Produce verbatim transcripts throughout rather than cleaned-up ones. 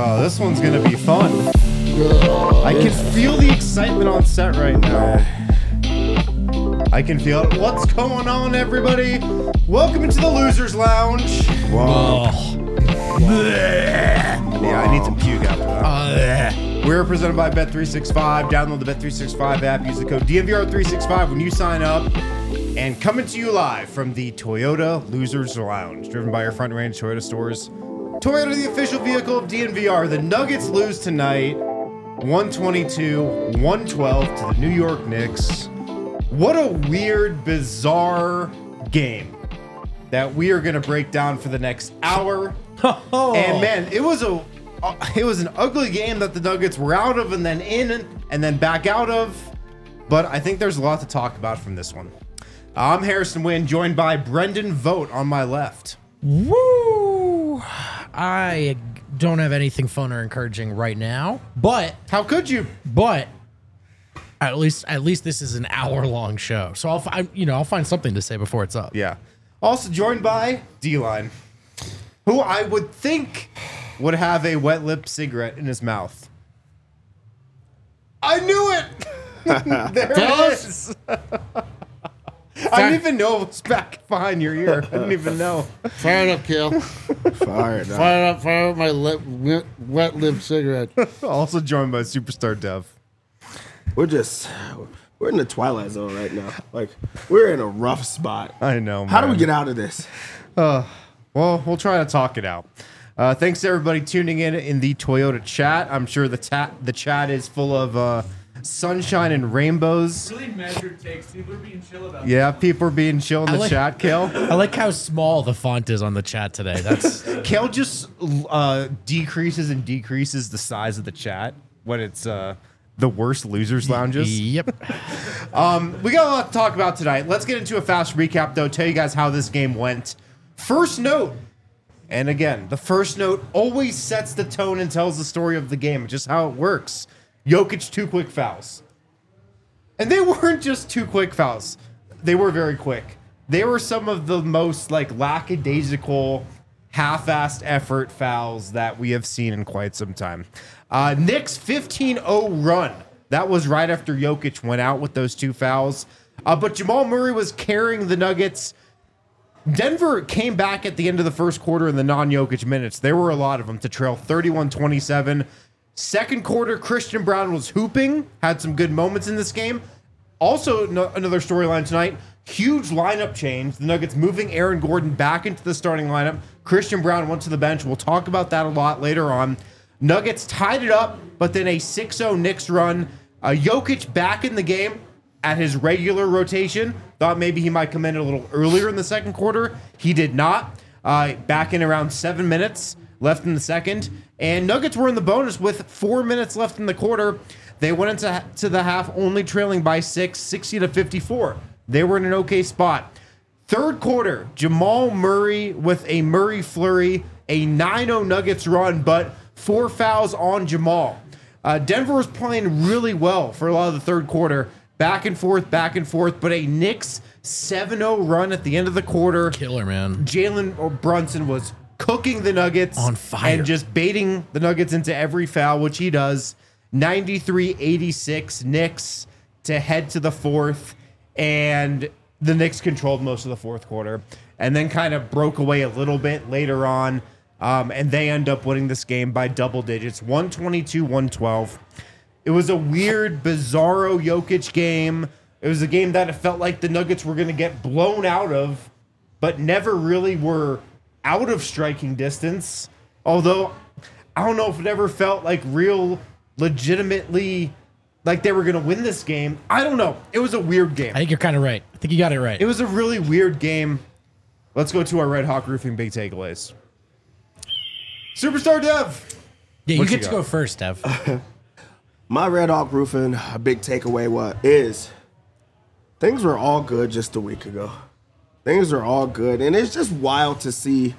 Oh, this one's gonna be fun. I can feel the excitement on set right now. I can feel it. What's going on, everybody? Welcome into the Losers Lounge. Whoa. Yeah, I need some puke after that. We're presented by Bet three sixty-five. Download the Bet three sixty-five app. Use the code D M V R three sixty-five when you sign up. And coming to you live from the Toyota Losers Lounge, driven by your Front Range Toyota stores. Toyota, the official vehicle of D N V R. The Nuggets lose tonight, one twenty-two to one twelve to the New York Knicks. What a weird, bizarre game that we are going to break down for the next hour. Oh. And man, it was a uh, it was an ugly game that the Nuggets were out of and then in and then back out of. But I think there's a lot to talk about from this one. I'm Harrison Wynn, joined by Brendan Vogt on my left. Woo! I don't have anything fun or encouraging right now, but How could you? but at least at least this is an hour long show, so I'll fi- you know I'll find something to say before it's up. Yeah. Also joined by D-Line, who I would think would have a wet lip cigarette in his mouth. I knew it! There it is! I didn't even know it was back behind your ear. I didn't even know. Fire it up, Kale. Fire it up. Fire up, fire up my lip, wet, wet lip cigarette. Also joined by Superstar Dev. We're just, we're in the twilight zone right now. Like, we're in a rough spot. I know, How do man. we get out of this? Uh, well, we'll try to talk it out. Uh, thanks to everybody tuning in in the Toyota chat. I'm sure the, ta- the chat is full of uh, sunshine and rainbows. Really measured takes. People are being chill about Yeah, people are being chill in the I like- chat, Kale. I like how small the font is on the chat today. That's Kale just uh, decreases and decreases the size of the chat when it's uh, the worst losers lounges. Yep. Um, we got a lot to talk about tonight. Let's get into a fast recap, though. Tell you guys how this game went. First note, and again, the first note always sets the tone and tells the story of the game, just how it works. Jokic, two quick fouls. And they weren't just two quick fouls. They were very quick. They were some of the most like lackadaisical, half-assed effort fouls that we have seen in quite some time. Uh, Knicks fifteen oh run. That was right after Jokic went out with those two fouls. Uh, but Jamal Murray was carrying the Nuggets. Denver came back at the end of the first quarter in the non-Jokic minutes. There were a lot of them to trail thirty-one twenty-seven. Second quarter, Christian Brown was hooping, had some good moments in this game. Also, no, another storyline tonight, huge lineup change. The Nuggets moving Aaron Gordon back into the starting lineup. Christian Brown went to the bench. We'll talk about that a lot later on. Nuggets tied it up, but then a six oh Knicks run. Uh, Jokic back in the game at his regular rotation. Thought maybe he might come in a little earlier in the second quarter. He did not. Uh, back in around seven minutes left in the second. And Nuggets were in the bonus with four minutes left in the quarter. They went into to the half only trailing by six, sixty to fifty-four. They were in an okay spot. Third quarter, Jamal Murray with a Murray flurry, a nine oh Nuggets run, but four fouls on Jamal. Uh, Denver was playing really well for a lot of the third quarter. Back and forth, back and forth, but a Knicks seven oh run at the end of the quarter. Killer, man. Jalen Brunson was cooking the Nuggets On fire. and just baiting the Nuggets into every foul, which he does. ninety-three eighty-six Knicks to head to the fourth, and the Knicks controlled most of the fourth quarter and then kind of broke away a little bit later on, um, and they end up winning this game by double digits, one twenty-two to one twelve. It was a weird, bizarro Jokic game. It was a game that it felt like the Nuggets were going to get blown out of, but never really were out of striking distance. Although, I don't know if it ever felt like real, legitimately, like they were going to win this game. I don't know. It was a weird game. I think you're kind of right. I think you got it right. It was a really weird game. Let's go to our Red Hawk Roofing big takeaways. Superstar Dev. yeah, you what get you to got? go first, Dev. My Red Hawk Roofing, a big takeaway what is things were all good just a week ago. Things are all good. And it's just wild to see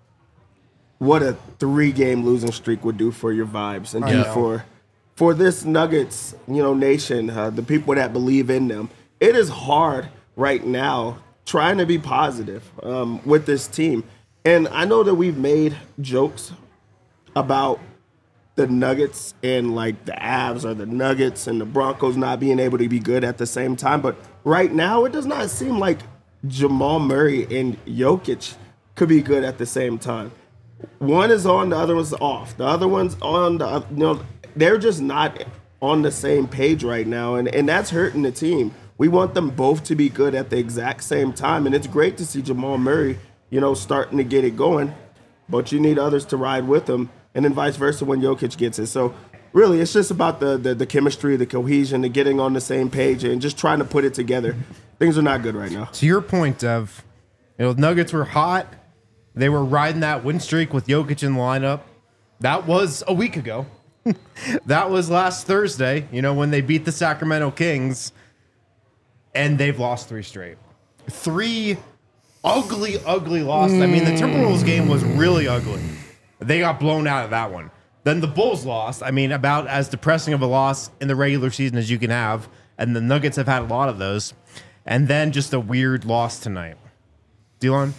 what a three-game losing streak would do for your vibes and I do know. for for this Nuggets, you know, nation, uh, the people that believe in them. It is hard right now trying to be positive um, with this team. And I know that we've made jokes about the Nuggets and like the Avs or the Nuggets and the Broncos not being able to be good at the same time. But right now, it does not seem like Jamal Murray and Jokic could be good at the same time. One is on, the other one's off. The other one's on, the oth- you know, they're just not on the same page right now, and, and that's hurting the team. We want them both to be good at the exact same time, and it's great to see Jamal Murray, you know, starting to get it going, but you need others to ride with him, and then vice versa when Jokic gets it. So really, it's just about the, the, the chemistry, the cohesion, the getting on the same page, and just trying to put it together. Things are not good right now. To your point, Dev, you know, Nuggets were hot. They were riding that win streak with Jokic in the lineup. That was a week ago. That was last Thursday, you know, when they beat the Sacramento Kings, and they've lost three straight. Three ugly, ugly losses. I mean, the Timberwolves game was really ugly. They got blown out of that one. Then the Bulls lost. I mean, about as depressing of a loss in the regular season as you can have, and the Nuggets have had a lot of those. And then just a weird loss tonight. Dylan?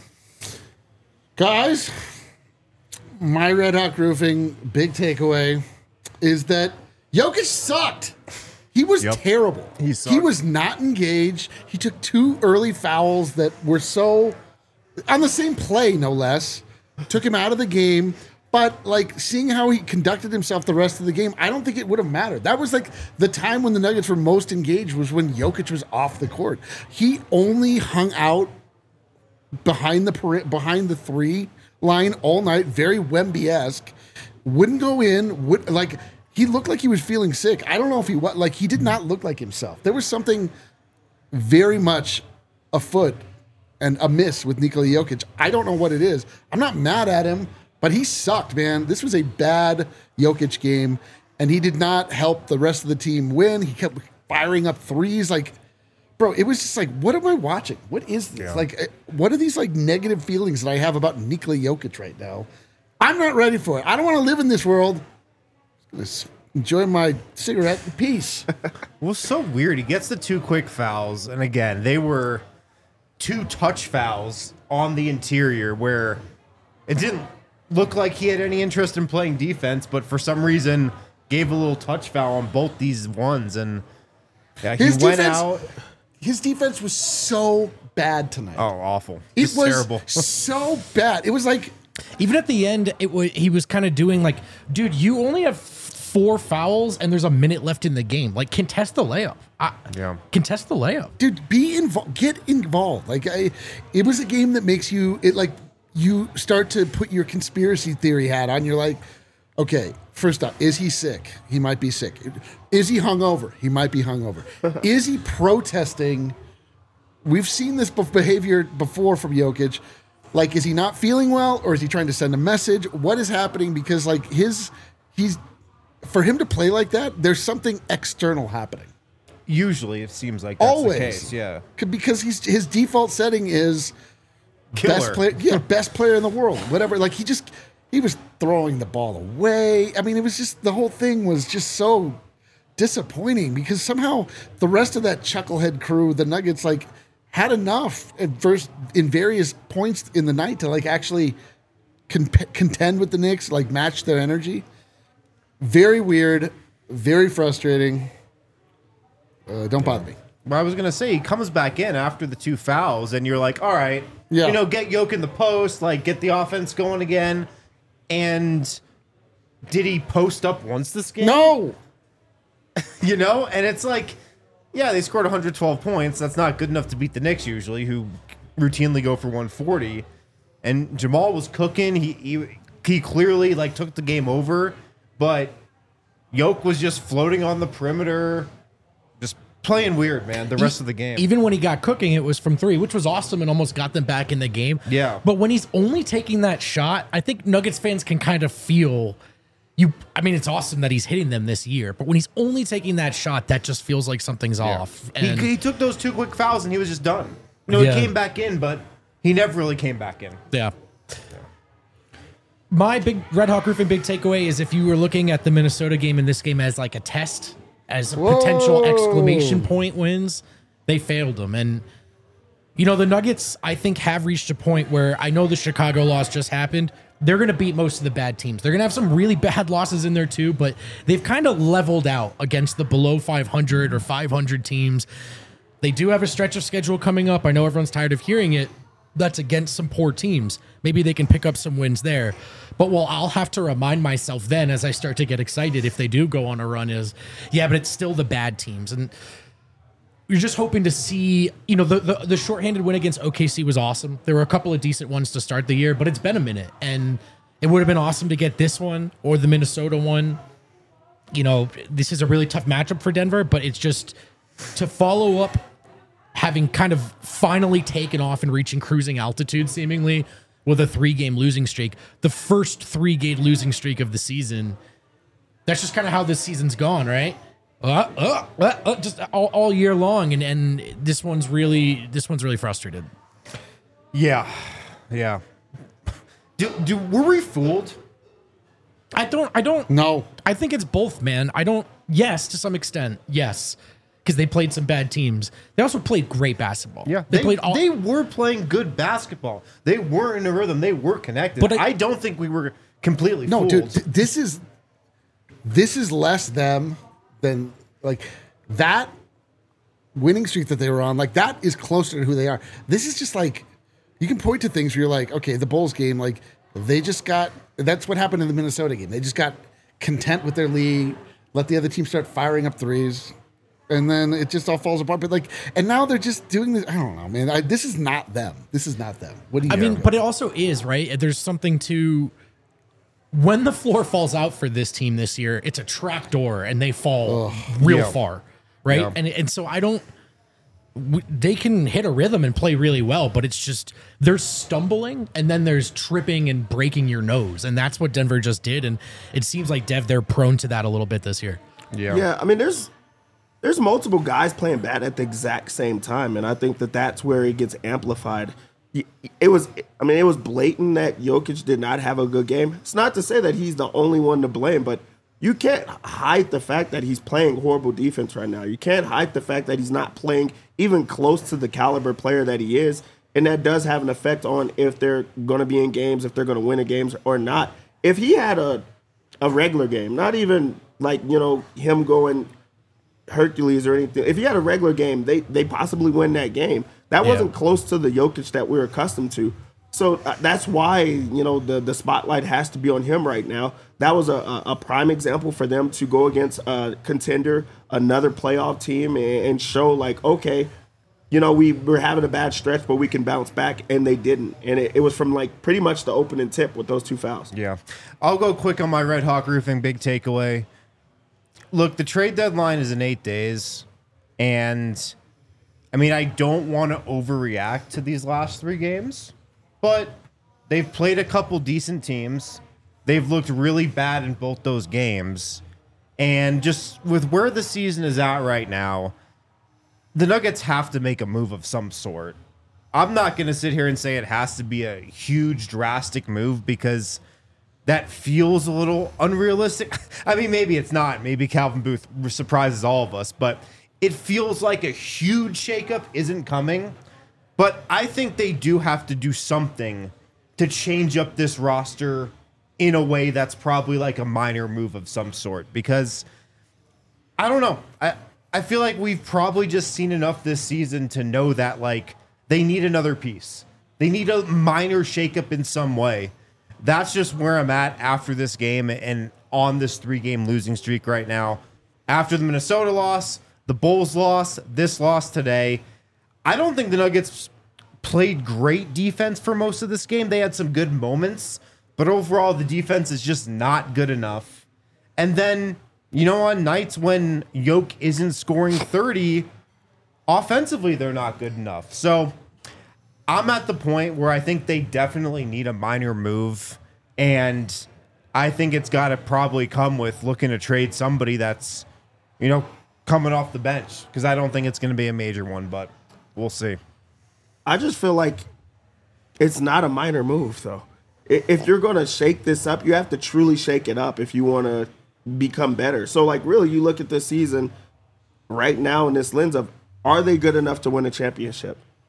Guys, my Red Hawk Roofing big takeaway is that Jokic sucked. He was Yep. terrible. He sucked. He was not engaged. He took two early fouls that were so on the same play, no less. Took him out of the game. But like seeing how he conducted himself the rest of the game, I don't think it would have mattered. That was like the time when the Nuggets were most engaged was when Jokic was off the court. He only hung out behind the peri- behind the three line all night, very Wemby-esque. Wouldn't go in. Would like he looked like he was feeling sick. I don't know if he was like he did not look like himself. There was something very much afoot and amiss with Nikola Jokic. I don't know what it is. I'm not mad at him, but he sucked, man. This was a bad Jokic game, and he did not help the rest of the team win. He kept firing up threes, like. Bro, it was just like, what am I watching? What is this? Yeah. Like, uh, what are these like negative feelings that I have about Nikola Jokic right now? I'm not ready for it. I don't want to live in this world. Just enjoy my cigarette in peace. Well, it's so weird. He gets the two quick fouls, and again, they were two touch fouls on the interior where it didn't look like he had any interest in playing defense, but for some reason gave a little touch foul on both these ones, and yeah, he His went defense- out. His defense was so bad tonight. Oh, awful! it Just was terrible. so bad. It was like, Even at the end, it was he was kind of doing like, dude, you only have four fouls and there's a minute left in the game. Like, contest the layup. I, Yeah. Contest the layup. dude, be involved. Get involved. Like, I, it was a game that makes you, it like, you start to put your conspiracy theory hat on. You're like, okay, first up, is he sick? He might be sick. Is he hungover? He might be hungover. Is he protesting? We've seen this bef- behavior before from Jokic. Like, is he not feeling well, or is he trying to send a message? What is happening? Because like his, he's, for him to play like that, there's something external happening. Usually, it seems like that's Always, the case. Yeah, C- because he's his default setting is Killer. best player, yeah, best player in the world, whatever. Like he just he was throwing the ball away. I mean, it was just the whole thing was just so disappointing because somehow the rest of that chucklehead crew, the Nuggets, like had enough at first in various points in the night to like actually con- contend with the Knicks, like match their energy. Very weird, very frustrating. Uh, don't bother me. Well, I was gonna say he comes back in after the two fouls, and you're like, all right, Yeah. you know, get Yoke in the post, like get the offense going again. And did he post up once this game? No. You know, and it's like, yeah, they scored one hundred twelve points. That's not good enough to beat the Knicks usually, who routinely go for one forty. And Jamal was cooking. He he, he clearly like took the game over, but Yoke was just floating on the perimeter, just playing weird, man. The rest of the game. Even when he got cooking, it was from three, which was awesome and almost got them back in the game. Yeah. But when he's only taking that shot, I think Nuggets fans can kind of feel you. I mean, it's awesome that he's hitting them this year, but when he's only taking that shot, that just feels like something's off. He, And he took those two quick fouls and he was just done. You know, Yeah. he came back in, but he never really came back in. yeah. My big Red Hawk Roofing big takeaway is if you were looking at the Minnesota game and this game as like a test, as a potential Whoa. exclamation point wins, they failed them. And You know, the Nuggets, I think, have reached a point where I know the Chicago loss just happened. They're going to beat most of the bad teams. They're going to have some really bad losses in there too, but they've kind of leveled out against the below five hundred or five hundred teams. They do have a stretch of schedule coming up. I know everyone's tired of hearing it. That's against some poor teams. Maybe they can pick up some wins there. But what I'll have to remind myself then as I start to get excited if they do go on a run is, yeah, but it's still the bad teams. And you're just hoping to see, you know, the, the the shorthanded win against O K C was awesome. There were a couple of decent ones to start the year, but it's been a minute. And it would have been awesome to get this one or the Minnesota one. You know, this is a really tough matchup for Denver, but it's just to follow up having kind of finally taken off and reaching cruising altitude seemingly with a three-game losing streak. The first three-game losing streak of the season. That's just kind of how this season's gone, right? Uh, uh, uh, uh, just all, all year long, and, and this one's really this one's really frustrated. Yeah, yeah. Do, do were we fooled? I don't. I don't. No. I think it's both, man. I don't. Yes, to some extent, yes, because they played some bad teams. They also played great basketball. Yeah, they, they played. All, They were playing good basketball. They were in a rhythm. They were connected. But But I- I, don't think we were completely No, fooled. dude, th- this is this is less them than like that winning streak that they were on. Like that is closer to who they are. This is just like you can point to things where you're like, okay, the Bulls game, like they just got. That's what happened in the Minnesota game. They just got content with their lead, let the other team start firing up threes, and then it just all falls apart. But like, and now they're just doing this. I don't know, man. I, this is not them. This is not them. What do you? I mean, but it also is, right? There's something to when the floor falls out for this team this year, it's a trap door and they fall real Yeah. far, right? Yeah. And and so I don't w- they can hit a rhythm and play really well, but it's just there's stumbling and then there's tripping and breaking your nose, and that's what Denver just did, and it seems like Dev they're prone to that a little bit this year. yeah. Yeah, I mean, there's there's multiple guys playing bad at the exact same time, and I think that that's where it gets amplified. Y- It was, I mean, it was blatant that Jokic did not have a good game. It's not to say that he's the only one to blame, but you can't hide the fact that he's playing horrible defense right now. You can't hide the fact that he's not playing even close to the caliber player that he is, and that does have an effect on if they're going to be in games, if they're going to win a games or not. If he had a a regular game, not even like, you know, him going Hercules or anything. If he had a regular game, they they possibly win that game. That wasn't Yeah. close to the Jokic that we're accustomed to. So uh, that's why, you know, the the spotlight has to be on him right now. That was a, a, a prime example for them to go against a contender, another playoff team, and, and show like, okay, you know, we were having a bad stretch, but we can bounce back, and they didn't. And it, it was from like pretty much the opening tip with those two fouls. Yeah. I'll go quick on my Red Hawk Roofing big takeaway. Look, the trade deadline is in eight days. And, I mean, I don't want to overreact to these last three games, but they've played a couple decent teams. They've looked really bad in both those games. And just with where the season is at right now, the Nuggets have to make a move of some sort. I'm not going to sit here and say it has to be a huge, drastic move because that feels a little unrealistic. I mean, maybe it's not. Maybe Calvin Booth surprises all of us, but it feels like a huge shakeup isn't coming. But I think they do have to do something to change up this roster in a way that's probably like a minor move of some sort because I don't know. I I feel like we've probably just seen enough this season to know that like they need another piece. They need a minor shakeup in some way. That's just where I'm at after this game and on this three-game losing streak right now. After the Minnesota loss, the Bulls loss, this loss today, I don't think the Nuggets played great defense for most of this game. They had some good moments, but overall the defense is just not good enough. And then, you know, on nights when Yoke isn't scoring thirty, offensively they're not good enough. So I'm at the point where I think they definitely need a minor move, and I think it's got to probably come with looking to trade somebody that's, you know, coming off the bench, because I don't think it's going to be a major one, but we'll see. I just feel like it's not a minor move, though. I- If you're going to shake this up, you have to truly shake it up if you want to become better. So, like, really, you look at this season right now in this lens of, are they good enough to win a championship?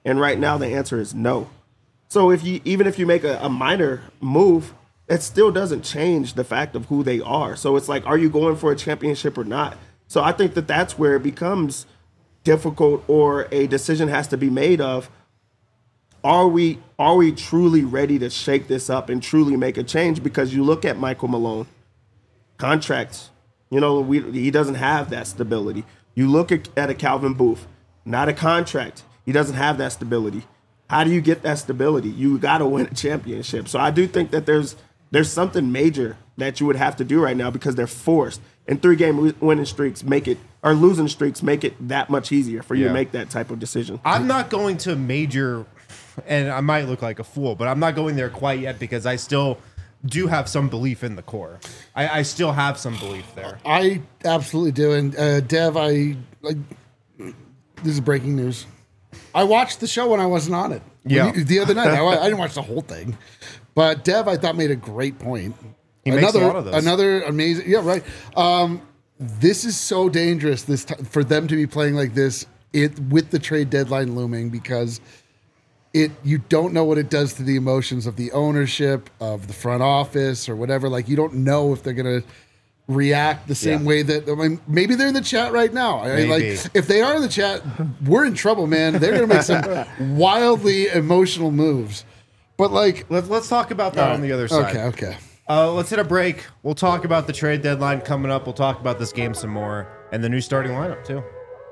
And right now the answer is no. So if you even if you make a, a minor move, it still doesn't change the fact of who they are. So it's like, are you going for a championship or not? So I think that that's where it becomes difficult, or a decision has to be made of, are we are we truly ready to shake this up and truly make a change? Because you look at Michael Malone, contracts, you know, we, he doesn't have that stability. You look at, at a Calvin Booth, not a contract. He doesn't have that stability. How do you get that stability? You got to win a championship. So I do think that there's there's something major that you would have to do right now, because they're forced. And three-game winning streaks make it, or losing streaks make it that much easier for you Yeah. to make that type of decision. I'm not going to major, and I might look like a fool, but I'm not going there quite yet, because I still do have some belief in the core. I, I still have some belief there. I absolutely do. And uh, Dev, I like this is breaking news. I watched the show when I wasn't on it. When Yeah. you- the other night. I, I didn't watch the whole thing, but Dev, I thought, made a great point. He makes a lot of those. Another amazing. Yeah, right. Um, this is so dangerous. This t- for them to be playing like this it with the trade deadline looming, because it you don't know what it does to the emotions of the ownership, of the front office, or whatever. Like, you don't know if they're gonna react the same Yeah. way that, I mean, maybe they're in the chat right now. I mean, Maybe. like, if they are in the chat, we're in trouble, man. They're gonna make some wildly emotional moves. But like, Let, let's talk about that on the other side. okay, okay. Uh, let's hit a break. We'll talk about the trade deadline coming up. We'll talk about this game some more, and the new starting lineup too.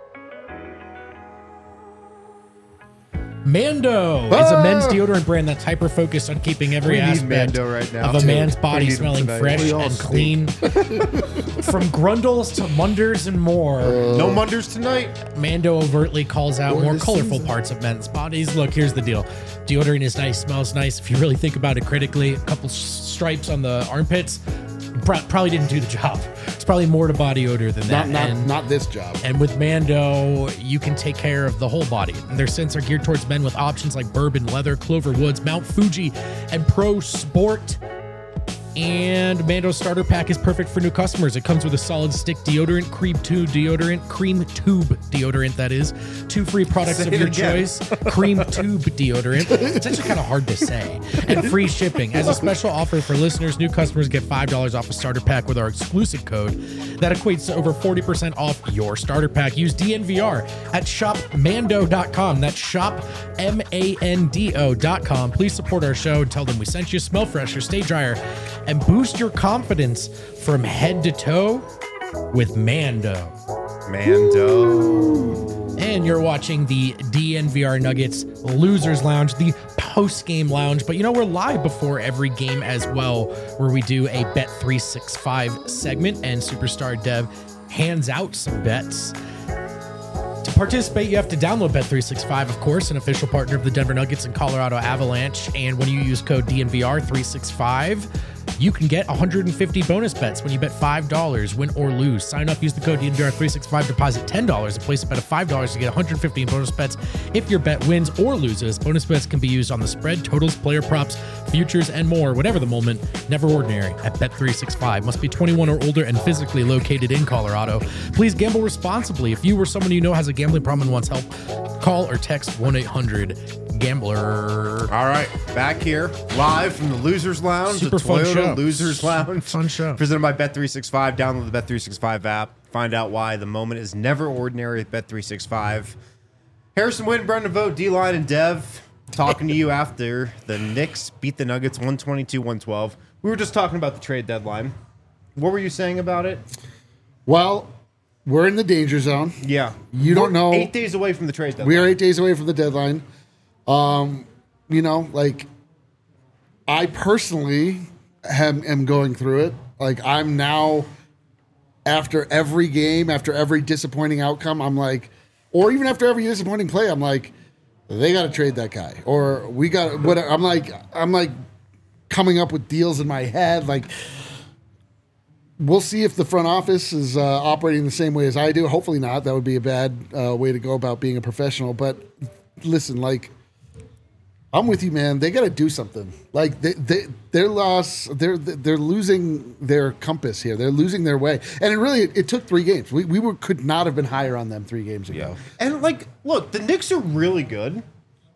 Mando is a men's deodorant brand that's hyper focused on keeping every We need aspect Mando right now, of a too. man's We body need him smelling tonight. fresh We all and stink. clean. From grundles to munders and more, No Munders tonight. Mando overtly calls out more this colorful season. parts of men's bodies. Look, here's the deal. Deodorant is nice, smells nice. If you really think about it critically, a couple s- stripes on the armpits pro- probably didn't do the job. It's probably more to body odor than that. Not not And- not this job. And with Mando, you can take care of the whole body. And their scents are geared towards men with options like bourbon, leather, Clover Woods, Mount Fuji, and Pro Sport. And Mando's starter pack is perfect for new customers. It comes with a solid stick deodorant, cream tube deodorant, cream tube deodorant, that is. Two free products Say of it your again. choice. Cream tube deodorant. It's actually kind of hard to say. And free shipping. As a special offer for listeners, new customers get five dollars off a starter pack with our exclusive code. That equates to over forty percent off your starter pack. Use D N V R at shop mando dot com. That's shop M A N D O dot com. Please support our show and tell them we sent you. Smell fresher, stay drier, and boost your confidence from head to toe with Mando. Mando. And you're watching the D N V R Nuggets Losers Lounge, the post-game lounge. But you know, we're live before every game as well, where we do a Bet three sixty-five segment, and Superstar Dev hands out some bets. To participate, you have to download Bet three sixty-five, of course, an official partner of the Denver Nuggets and Colorado Avalanche. And when you use code D N V R three sixty-five, you can get one hundred fifty bonus bets when you bet five dollars, win or lose. Sign up, use the code D N V R three sixty-five, deposit ten dollars, and place a bet of five dollars to get one hundred fifty in bonus bets if your bet wins or loses. Bonus bets can be used on the spread, totals, player props, futures, and more. Whatever the moment, never ordinary at Bet three sixty-five. Must be twenty-one or older and physically located in Colorado. Please gamble responsibly. If you or someone you know has a gambling problem and wants help, call or text one eight hundred gambler. All right, back here live from the Losers Lounge, Super the fun Toyota show. Losers Lounge. Fun show. Presented by Bet three sixty-five. Download the Bet three sixty-five app. Find out why the moment is never ordinary at Bet three sixty-five. Harrison Wynn, Brendan Vogt, D-Line, and Dev talking to you after the Knicks beat the Nuggets one twenty-two one twelve. We were just talking about the trade deadline. What were you saying about it? Well, we're in the danger zone. Yeah. You don't We're know- Eight days away from the trade deadline. We are eight days away from the deadline. Um, you know, like, I personally am, am going through it. Like, I'm now, after every game, after every disappointing outcome, I'm like, or even after every disappointing play, I'm like, they got to trade that guy, or we got what I'm like. I'm like coming up with deals in my head. Like, we'll see if the front office is uh, operating the same way as I do. Hopefully not. That would be a bad uh, way to go about being a professional. But listen, like, I'm with you, man. They got to do something. Like, they, they, their loss, they're they're losing their compass here. They're losing their way. And it really, it, it took three games. We we were could not have been higher on them three games ago. Yeah. And, like, look, the Knicks are really good.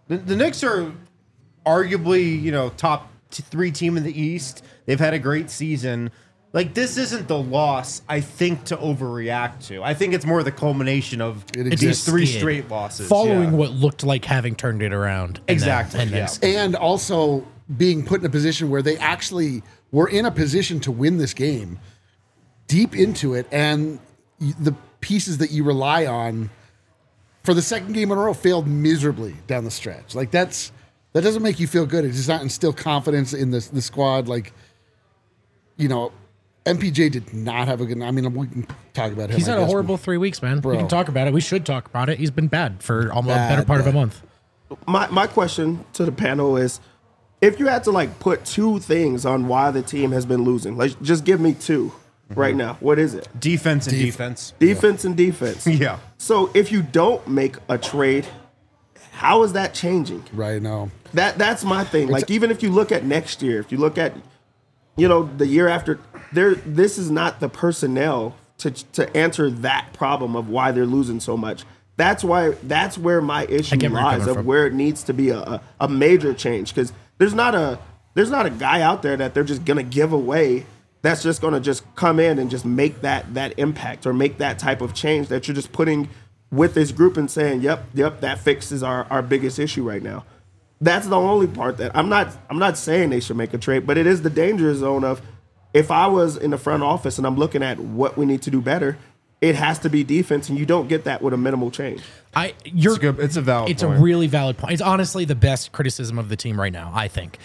The, the Knicks are arguably, you know, top t- three team in the East. They've had a great season. Like, this isn't the loss, I think, to overreact to. I think it's more the culmination of It these exists. three Skid. straight losses. Following yeah. what looked like having turned it around. and Exactly, Then, and then yeah. skid. And also being put in a position where they actually were in a position to win this game deep into it, and y- the pieces that you rely on for the second game in a row failed miserably down the stretch. Like, that's that doesn't make you feel good. It does not instill confidence in the the squad. Like, you know, M P J did not have a good. I mean, we can talk about him. He's I had a guess, horrible three weeks, man. Bro. We can talk about it. We should talk about it. He's been bad for almost a Bad, better part of a bad. month. My my question to the panel is, if you had to like put two things on why the team has been losing, like just give me two right now. What is it? Defense and defense. Defense and defense. Yeah. So if you don't make a trade, how is that changing? Right now. That that's my thing. Like even if you look at next year, if you look at, you know, the year after, there this is not the personnel to to answer that problem of why they're losing so much. That's why that's where my issue get where you're lies coming of from. where it needs to be a, a, a major change, because there's not a there's not a guy out there that they're just gonna give away that's just gonna just come in and just make that that impact or make that type of change that you're just putting with this group and saying, yep, yep, that fixes our, our biggest issue right now. That's the only part that I'm not I'm not saying they should make a trade, but it is the danger zone of, if I was in the front office and I'm looking at what we need to do better, it has to be defense, and you don't get that with a minimal change. I you're It's a good- it's a valid It's point. a really valid point. It's honestly the best criticism of the team right now, I think.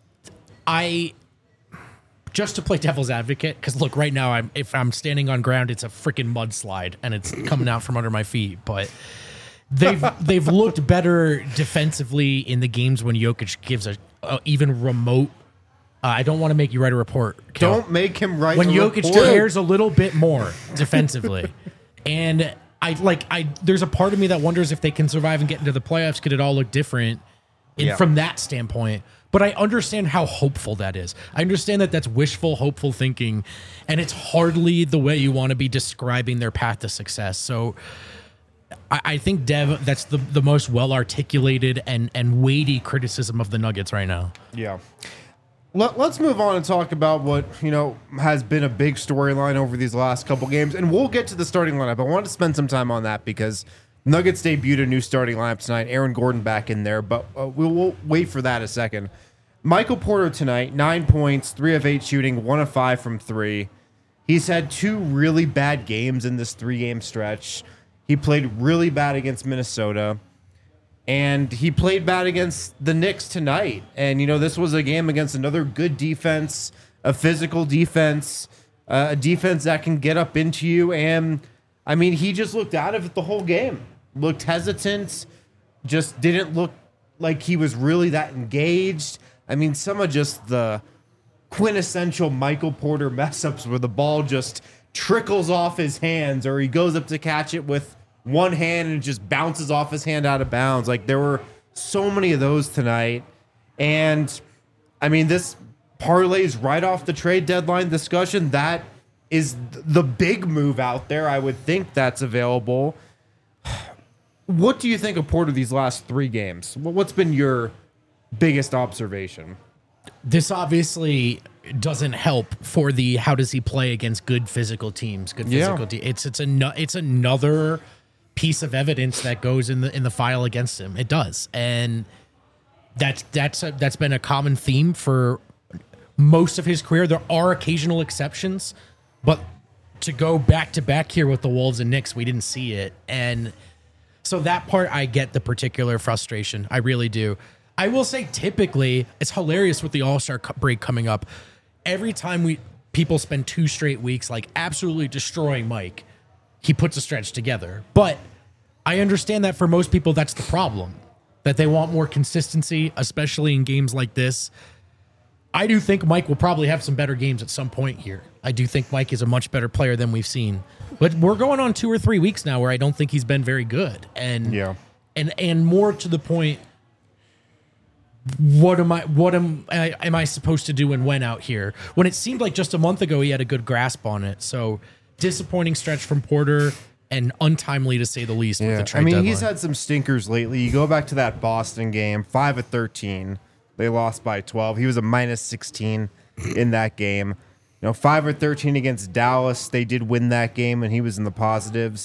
I just to play devil's advocate, because look, right now I'm if I'm standing on ground, it's a freaking mudslide and it's coming out from under my feet. But they've they've looked better defensively in the games when Jokic gives a, a even remote. Uh, I don't want to make you write a report. Kel. Don't make him write when a Jokic report. cares a little bit more defensively. And I like I there's a part of me that wonders if they can survive and get into the playoffs. Could it all look different in, Yeah. from that standpoint? But I understand how hopeful that is. I understand that that's wishful, hopeful thinking, and it's hardly the way you want to be describing their path to success. So I, I think, Dev, that's the, the most well articulated and and weighty criticism of the Nuggets right now. Yeah. Let, let's move on and talk about what, you know, has been a big storyline over these last couple games. And we'll get to the starting lineup. I want to spend some time on that because Nuggets debuted a new starting lineup tonight. Aaron Gordon back in there, but uh, we'll, we'll wait for that a second. Michael Porter tonight, nine points, three of eight shooting, one of five from three. He's had two really bad games in this three-game stretch. He played really bad against Minnesota. And he played bad against the Knicks tonight. And, you know, this was a game against another good defense, a physical defense, uh, a defense that can get up into you. And, I mean, he just looked out of it the whole game. Looked hesitant, just didn't look like he was really that engaged. I mean, some of just the quintessential Michael Porter mess-ups where the ball just trickles off his hands or he goes up to catch it with one hand and it just bounces off his hand out of bounds. Like, there were so many of those tonight. And, I mean, this parlays right off the trade deadline discussion. That is th- the big move out there. I would think that's available. What do you think of Porter these last three games? Wh- What's been your biggest observation? This obviously doesn't help for the how does he play against good physical teams, good Yeah. physical teams. It's it's a it's another piece of evidence that goes in the in the file against him. It does, and that's that's a, that's been a common theme for most of his career. There are occasional exceptions, but to go back to back here with the Wolves and Knicks, we didn't see it, and so that part I get the particular frustration. I really do. I will say, typically, it's hilarious with the All-Star break coming up. Every time we people spend two straight weeks like absolutely destroying Mike, he puts a stretch together. But I understand that for most people, that's the problem, that they want more consistency, especially in games like this. I do think Mike will probably have some better games at some point here. I do think Mike is a much better player than we've seen. But we're going on two or three weeks now where I don't think he's been very good. And Yeah. and and more to the point, what am I what am I, am I supposed to do and when out here? When it seemed like just a month ago he had a good grasp on it. So disappointing stretch from Porter. and untimely to say the least with Yeah, the I trade mean, deadline. he's had some stinkers lately. You go back to that Boston game, five of thirteen. They lost by twelve. He was a minus sixteen in that game. You know, five of thirteen against Dallas. They did win that game, and he was in the positives.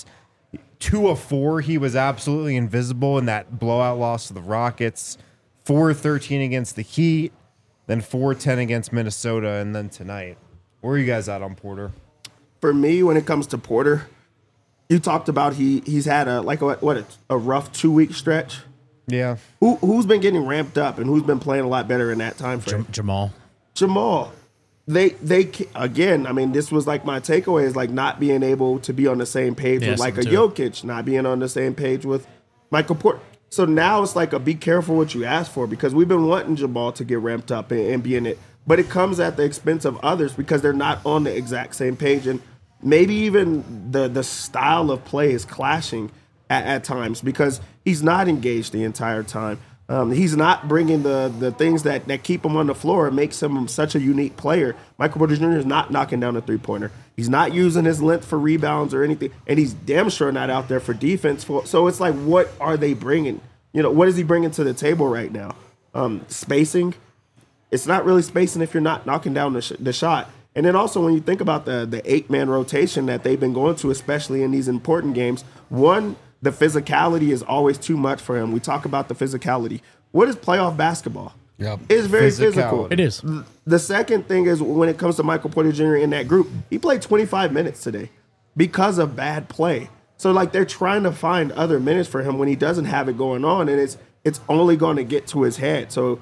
Two of four, he was absolutely invisible in that blowout loss to the Rockets. Four of thirteen against the Heat. Then four of ten against Minnesota, and then tonight. Where are you guys at on Porter? For me, when it comes to Porter, you talked about he he's had a like a, what a, a rough two week stretch. Yeah. Who who's been getting ramped up and who's been playing a lot better in that time frame? Jam- Jamal. Jamal. They they ca- again. I mean, this was like my takeaway is like not being able to be on the same page Yeah, with like a some too. Jokic, not being on the same page with Michael Porter. So now it's like a be careful what you ask for because we've been wanting Jamal to get ramped up and, and be in it, but it comes at the expense of others because they're not on the exact same page and maybe even the the style of play is clashing at, at times because he's not engaged the entire time. Um, he's not bringing the the things that, that keep him on the floor and makes him such a unique player. Michael Porter Junior is not knocking down a three-pointer. He's not using his length for rebounds or anything, and he's damn sure not out there for defense. For, so it's like, what are they bringing? You know, what is he bringing to the table right now? Um, spacing. It's not really spacing if you're not knocking down the, sh- the shot. And then also when you think about the the eight-man rotation that they've been going to, especially in these important games, one, the physicality is always too much for him. We talk about the physicality. What is playoff basketball? Yep. It's very Physicality. physical. It is. The second thing is when it comes to Michael Porter Junior in that group, he played twenty-five minutes today because of bad play. So like they're trying to find other minutes for him when he doesn't have it going on, and it's it's only going to get to his head. So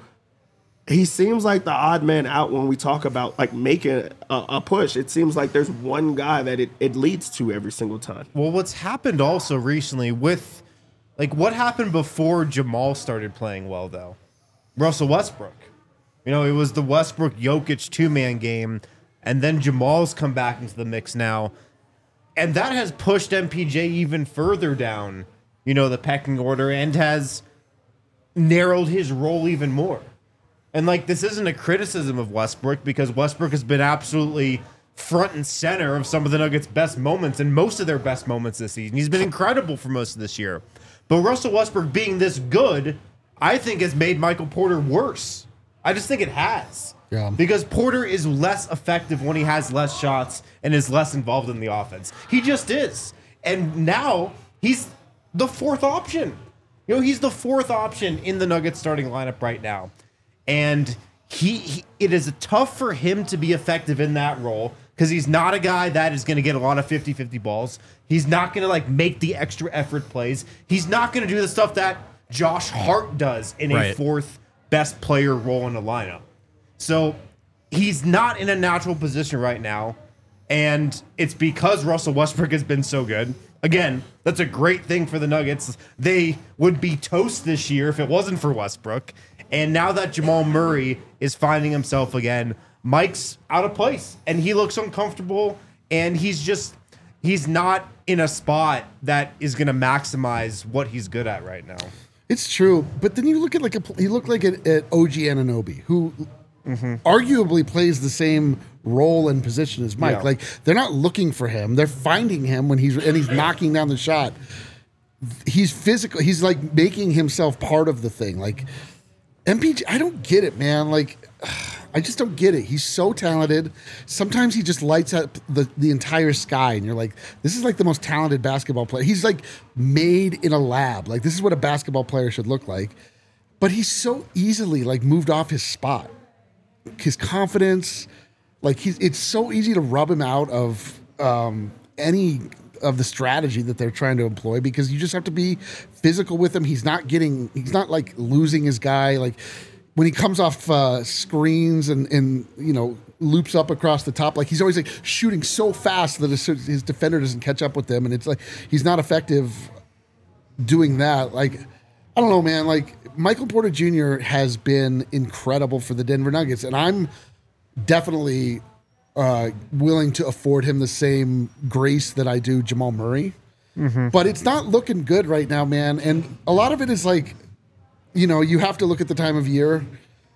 he seems like the odd man out when we talk about like making a, a push. It seems like there's one guy that it, it leads to every single time. Well, what's happened also recently with, like, what happened before Jamal started playing well, though? Russell Westbrook. You know, it was the Westbrook-Jokic two-man game, and then Jamal's come back into the mix now. And that has pushed M P J even further down, you know, the pecking order and has narrowed his role even more. And, like, this isn't a criticism of Westbrook because Westbrook has been absolutely front and center of some of the Nuggets' best moments and most of their best moments this season. He's been incredible for most of this year. But Russell Westbrook being this good, I think has made Michael Porter worse. I just think it has. Yeah. Because Porter is less effective when he has less shots and is less involved in the offense. He just is. And now he's the fourth option. You know, he's the fourth option in the Nuggets starting lineup right now. And he, he it is tough for him to be effective in that role because he's not a guy that is going to get a lot of fifty-fifty balls. He's not going to like make the extra effort plays. He's not going to do the stuff that Josh Hart does in a Right. fourth best player role in the lineup. So he's not in a natural position right now. And it's because Russell Westbrook has been so good. Again, that's a great thing for the Nuggets. They would be toast this year if it wasn't for Westbrook. And now that Jamal Murray is finding himself again, Mike's out of place and he looks uncomfortable and he's just, he's not in a spot that is going to maximize what he's good at right now. It's true, but then you look at like a he looked like at, at O G Anunoby, who arguably plays the same role and position as Mike. Yeah. Like they're not looking for him; they're finding him when he's and he's knocking down the shot. He's physical. He's like making himself part of the thing. Like M P J, I don't get it, man. Like I just don't get it. He's so talented. Sometimes he just lights up the, the entire sky, and you're like, this is like the most talented basketball player. He's like made in a lab. Like this is what a basketball player should look like. But he's so easily like moved off his spot. His confidence, like he's it's so easy to rub him out of um, any of the strategy that they're trying to employ because you just have to be physical with him. He's not getting, he's not like losing his guy. Like when he comes off uh, screens and, and, you know, loops up across the top, like he's always like shooting so fast that his, his defender doesn't catch up with him. And it's like, he's not effective doing that. Like, I don't know, man. Like Michael Porter Junior has been incredible for the Denver Nuggets. And I'm definitely uh, willing to afford him the same grace that I do Jamal Murray. Mm-hmm. But it's not looking good right now, man. And a lot of it is like, you know, you have to look at the time of year.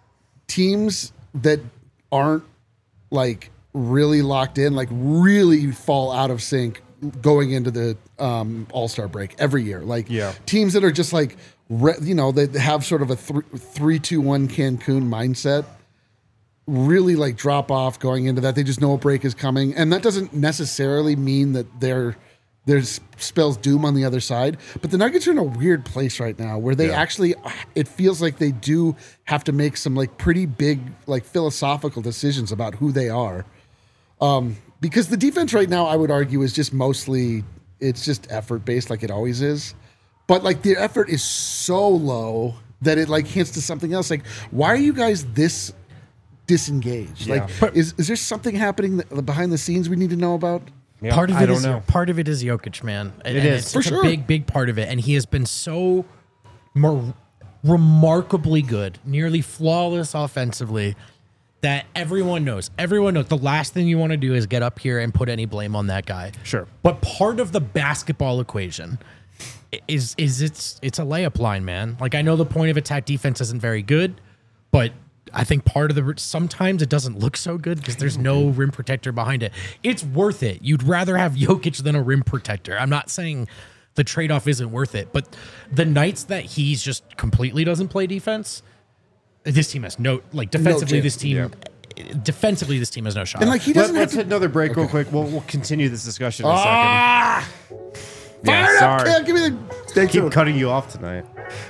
Teams that aren't like really locked in, like really fall out of sync going into the um, All-Star break every year. Like Yeah. teams that are just like, re- you know, they have sort of a three, three, two, one Cancun mindset. Really like drop off going into that. They just know a break is coming, and that doesn't necessarily mean that they're there's spells doom on the other side. But the Nuggets are in a weird place right now where they Yeah. actually, it feels like they do have to make some like pretty big like philosophical decisions about who they are. Um, because the defense right now, I would argue, is just mostly it's just effort based, like it always is. But like the effort is so low that it like hints to something else. Like, why are you guys this disengaged? Yeah. Like, is is there something happening that, behind the scenes we need to know about? Yeah, Part of I it don't is know. part of it is Jokic, man. And, It and is. it's For such sure. a big, big part of it, and he has been so more remarkably good, nearly flawless offensively. That everyone knows. Everyone knows. The last thing you want to do is get up here and put any blame on that guy. Sure. But part of the basketball equation is is it's it's a layup line, man. Like I know the point of attack defense isn't very good, but I think part of the sometimes it doesn't look so good because there's no rim protector behind it. It's worth it. You'd rather have Jokic than a rim protector. I'm not saying the trade-off isn't worth it, but the nights that he's just completely doesn't play defense, this team has no like defensively. chance. this team defensively, this team has no shot. And like he Let, doesn't have let's to hit another break real quick. We'll, we'll continue this discussion in a ah, second. fire Yeah, it up, sorry. Cam. Give me the Stay Keep tuned. cutting you off tonight.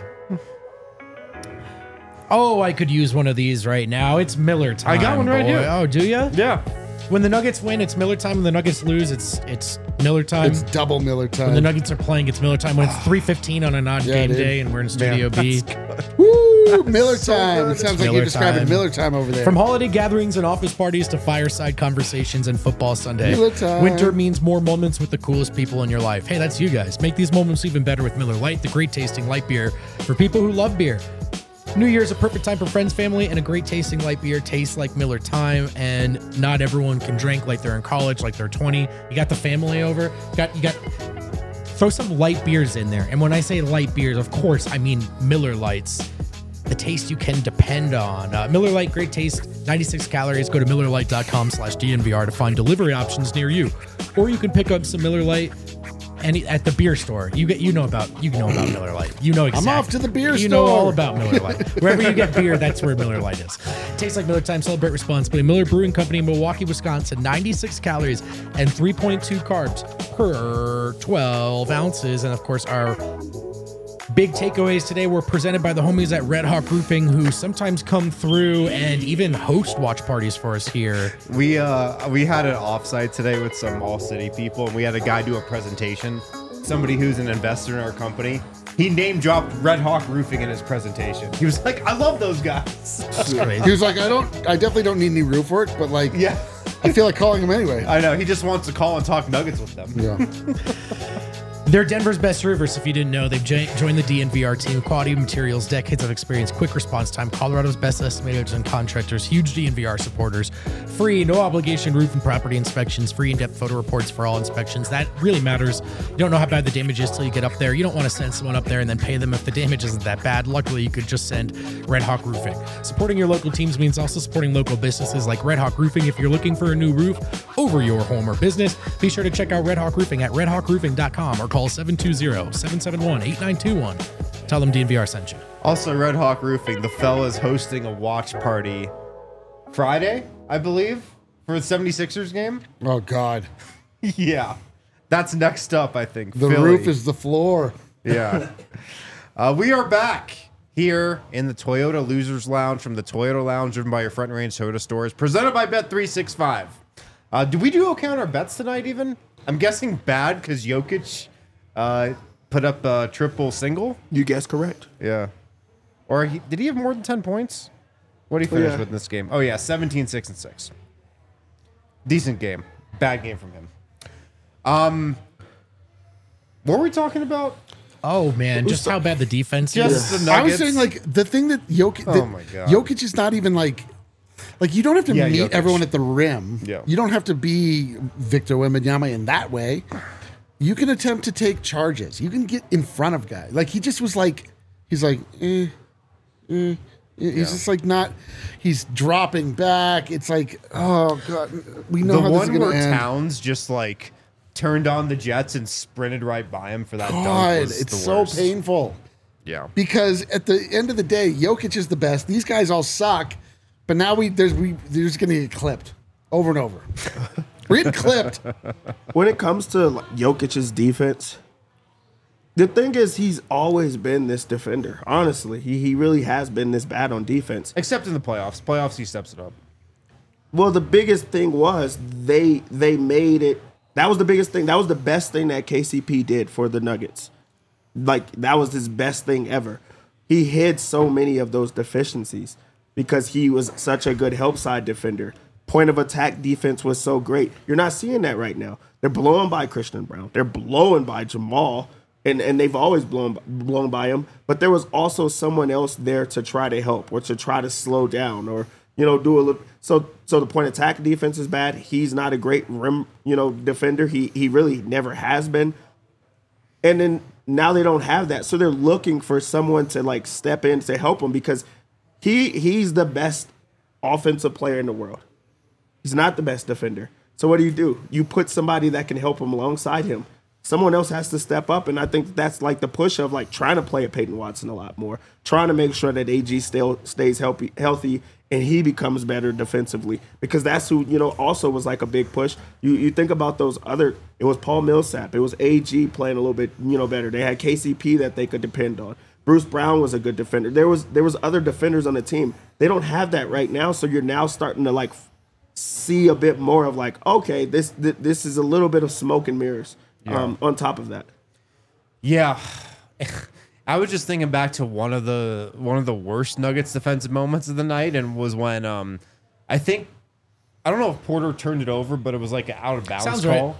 oh, I could use one of these right now. It's Miller time. I got one right boy. here. Oh, do you? Yeah. When the Nuggets win, it's Miller time. When the Nuggets lose, it's it's Miller time. it's double Miller time. When the Nuggets are playing, it's Miller time. When it's three fifteen on a non-game dude. day and we're in Studio B. Woo, Miller time. It sounds like Miller you're describing time. Miller time over there. From holiday gatherings and office parties to fireside conversations and football Sunday, Miller time. winter means more moments with the coolest people in your life. Hey, that's you guys. Make these moments even better with Miller Lite, the great tasting light beer for people who love beer. New Year's a perfect time for friends, family, and a great tasting light beer tastes like Miller time. And not everyone can drink like they're in college, like they're twenty. You got the family over. You got you got throw some light beers in there. And when I say light beers, of course I mean Miller Lights. The taste you can depend on. Uh, Miller Lite, great taste, ninety-six calories. Go to Miller Lite dot com slash D N V R to find delivery options near you. Or you can pick up some Miller Lite any at the beer store. You get you know about you know about Miller Lite. You know exactly. off to the beer You know store. all about Miller Lite. Wherever you get beer, that's where Miller Lite is. Tastes like Miller time. Celebrate responsibly. Miller Brewing Company, Milwaukee, Wisconsin. ninety-six calories and three point two carbs per twelve ounces. And of course, our big takeaways today were presented by the homies at Red Hawk Roofing, who sometimes come through and even host watch parties for us here. We uh we had an offsite today with some All City people, and we had a guy do a presentation. Somebody who's an investor in our company. He name dropped Red Hawk Roofing in his presentation. He was like, "I love those guys." That's crazy. he was like, I don't, I definitely don't need any roof work, but like, Yeah, I feel like calling him anyway. I know. He just wants to call and talk Nuggets with them. Yeah. They're Denver's best roofers, if you didn't know. They've jo- joined the D N V R team. Quality materials, decades of experience, quick response time. Colorado's best estimators and contractors. Huge D N V R supporters. Free, no obligation roof and property inspections. Free in-depth photo reports for all inspections. That really matters. You don't know how bad the damage is till you get up there. You don't want to send someone up there and then pay them if the damage isn't that bad. Luckily, you could just send Red Hawk Roofing. Supporting your local teams means also supporting local businesses like Red Hawk Roofing. If you're looking for a new roof over your home or business, be sure to check out Red Hawk Roofing at red hawk roofing dot com or call seven two zero, seven seven one, eight nine two one. Tell them D N V R sent you. Also, Red Hawk Roofing, the fella's hosting a watch party Friday, I believe, for the seventy-sixers game. Oh God, Yeah. That's next up, I think. the Philly. roof is the floor. Yeah. uh, we are back here in the Toyota Losers Lounge from the Toyota Lounge, driven by your Front Range Toyota stores, presented by Bet three sixty-five. Uh, do we do okay on our bets tonight even? I'm guessing bad because Jokic uh, put up a triple single. You guessed correct. Yeah. Or he, did he have more than ten points? What did he finish yeah. with in this game? Oh, yeah, seventeen, six, and six. Decent game. Bad game from him. Um, what were we talking about? Oh, man. Just how bad the defense Just is. the I was Nuggets. saying like the thing that Jokic, Oh that my God. Jokic is not even like, like you don't have to Yeah, meet Jokic. everyone at the rim. Yeah. You don't have to be Victor Wembanyama in that way. You can attempt to take charges. You can get in front of guys. Like he just was like, he's like, eh, eh. He's Yeah. just like not. He's dropping back. It's like, oh God, we know the how this is one going where to end. Towns just like turned on the jets and sprinted right by him for that dunk God, was it's the so worst. painful. Yeah. Because at the end of the day, Jokic is the best. These guys all suck, but now we there's we they're just gonna get clipped over and over. We're getting clipped. When it comes to like, Jokic's defense, the thing is he's always been this defender. Honestly, he he really has been this bad on defense. Except in the playoffs. Playoffs, he steps it up. Well, the biggest thing was they they made it. That was the biggest thing. That was the best thing that K C P did for the Nuggets. Like, that was his best thing ever. He hid so many of those deficiencies because he was such a good help side defender. Point of attack defense was so great. You're not seeing that right now. They're blowing by Christian Brown. They're blowing by Jamal, and, and they've always blown, blown by him. But there was also someone else there to try to help or to try to slow down or, you know, do a little. So so the point of attack defense is bad. He's not a great rim, you know, defender. He he really never has been. And then now they don't have that. So they're looking for someone to like step in to help him because he he's the best offensive player in the world. He's not the best defender. So what do you do? You put somebody that can help him alongside him. Someone else has to step up, and I think that's like the push of like trying to play at Peyton Watson a lot more, trying to make sure that A G still stays healthy, healthy, and he becomes better defensively because that's who you know also was like a big push. You you think about those other. It was Paul Millsap. It was A G playing a little bit you know better. They had K C P that they could depend on. Bruce Brown was a good defender. There was there was other defenders on the team. They don't have that right now, so you're now starting to like see a bit more of like okay, this th- this is a little bit of smoke and mirrors. Yeah. Um, on top of that, Yeah. I was just thinking back to one of the one of the worst Nuggets defensive moments of the night, and was when um I think I don't know if Porter turned it over, but it was like an out of bounds Sounds call.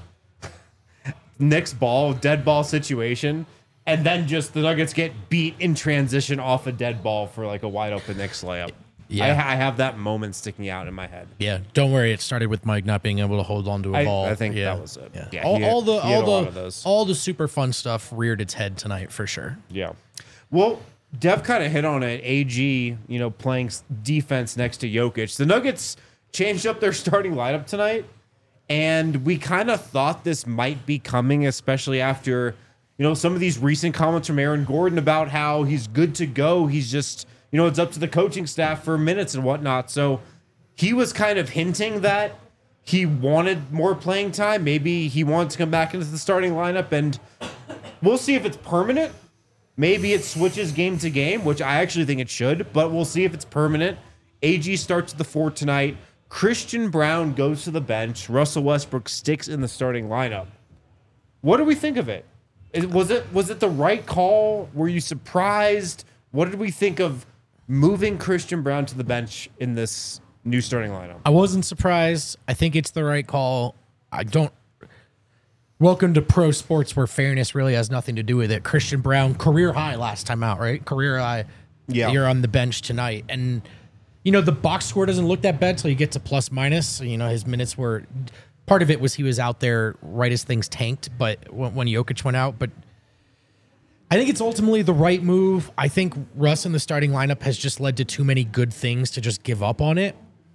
Knicks ball, dead ball situation, and then just the Nuggets get beat in transition off a dead ball for like a wide open Knicks layup. Yeah. I, I have that moment sticking out in my head. Yeah, don't worry. It started with Mike not being able to hold on to a I- ball. I think yeah. that was it. Yeah, Yeah, all, he had- all the he had all a lot the of those. all the super fun stuff reared its head tonight for sure. Yeah. Well, Dev kind of hit on it. A G, you know, playing s- defense next to Jokic. The Nuggets changed up their starting lineup tonight, and we kind of thought this might be coming, especially after, you know, some of these recent comments from Aaron Gordon about how he's good to go. He's just, you know, it's up to the coaching staff for minutes and whatnot. So he was kind of hinting that he wanted more playing time. Maybe he wants to come back into the starting lineup, and we'll see if it's permanent. Maybe it switches game to game, which I actually think it should, but we'll see if it's permanent. A G starts at the four tonight. Christian Brown goes to the bench. Russell Westbrook sticks in the starting lineup. What do we think of it? Is- Was it was it the right call? Were you surprised? What did we think of moving Christian Brown to the bench in this new starting lineup? I wasn't surprised. I think it's the right call. I don't. Welcome to pro sports where fairness really has nothing to do with it. Christian Brown, career high last time out, right? Career high. Yeah. You're on the bench tonight. And, you know, the box score doesn't look that bad until you get to plus minus. You know, his minutes were. Part of it was he was out there right as things tanked, but when, when Jokic went out. But I think it's ultimately the right move. I think Russ in the starting lineup has just led to too many good things to just give up on it.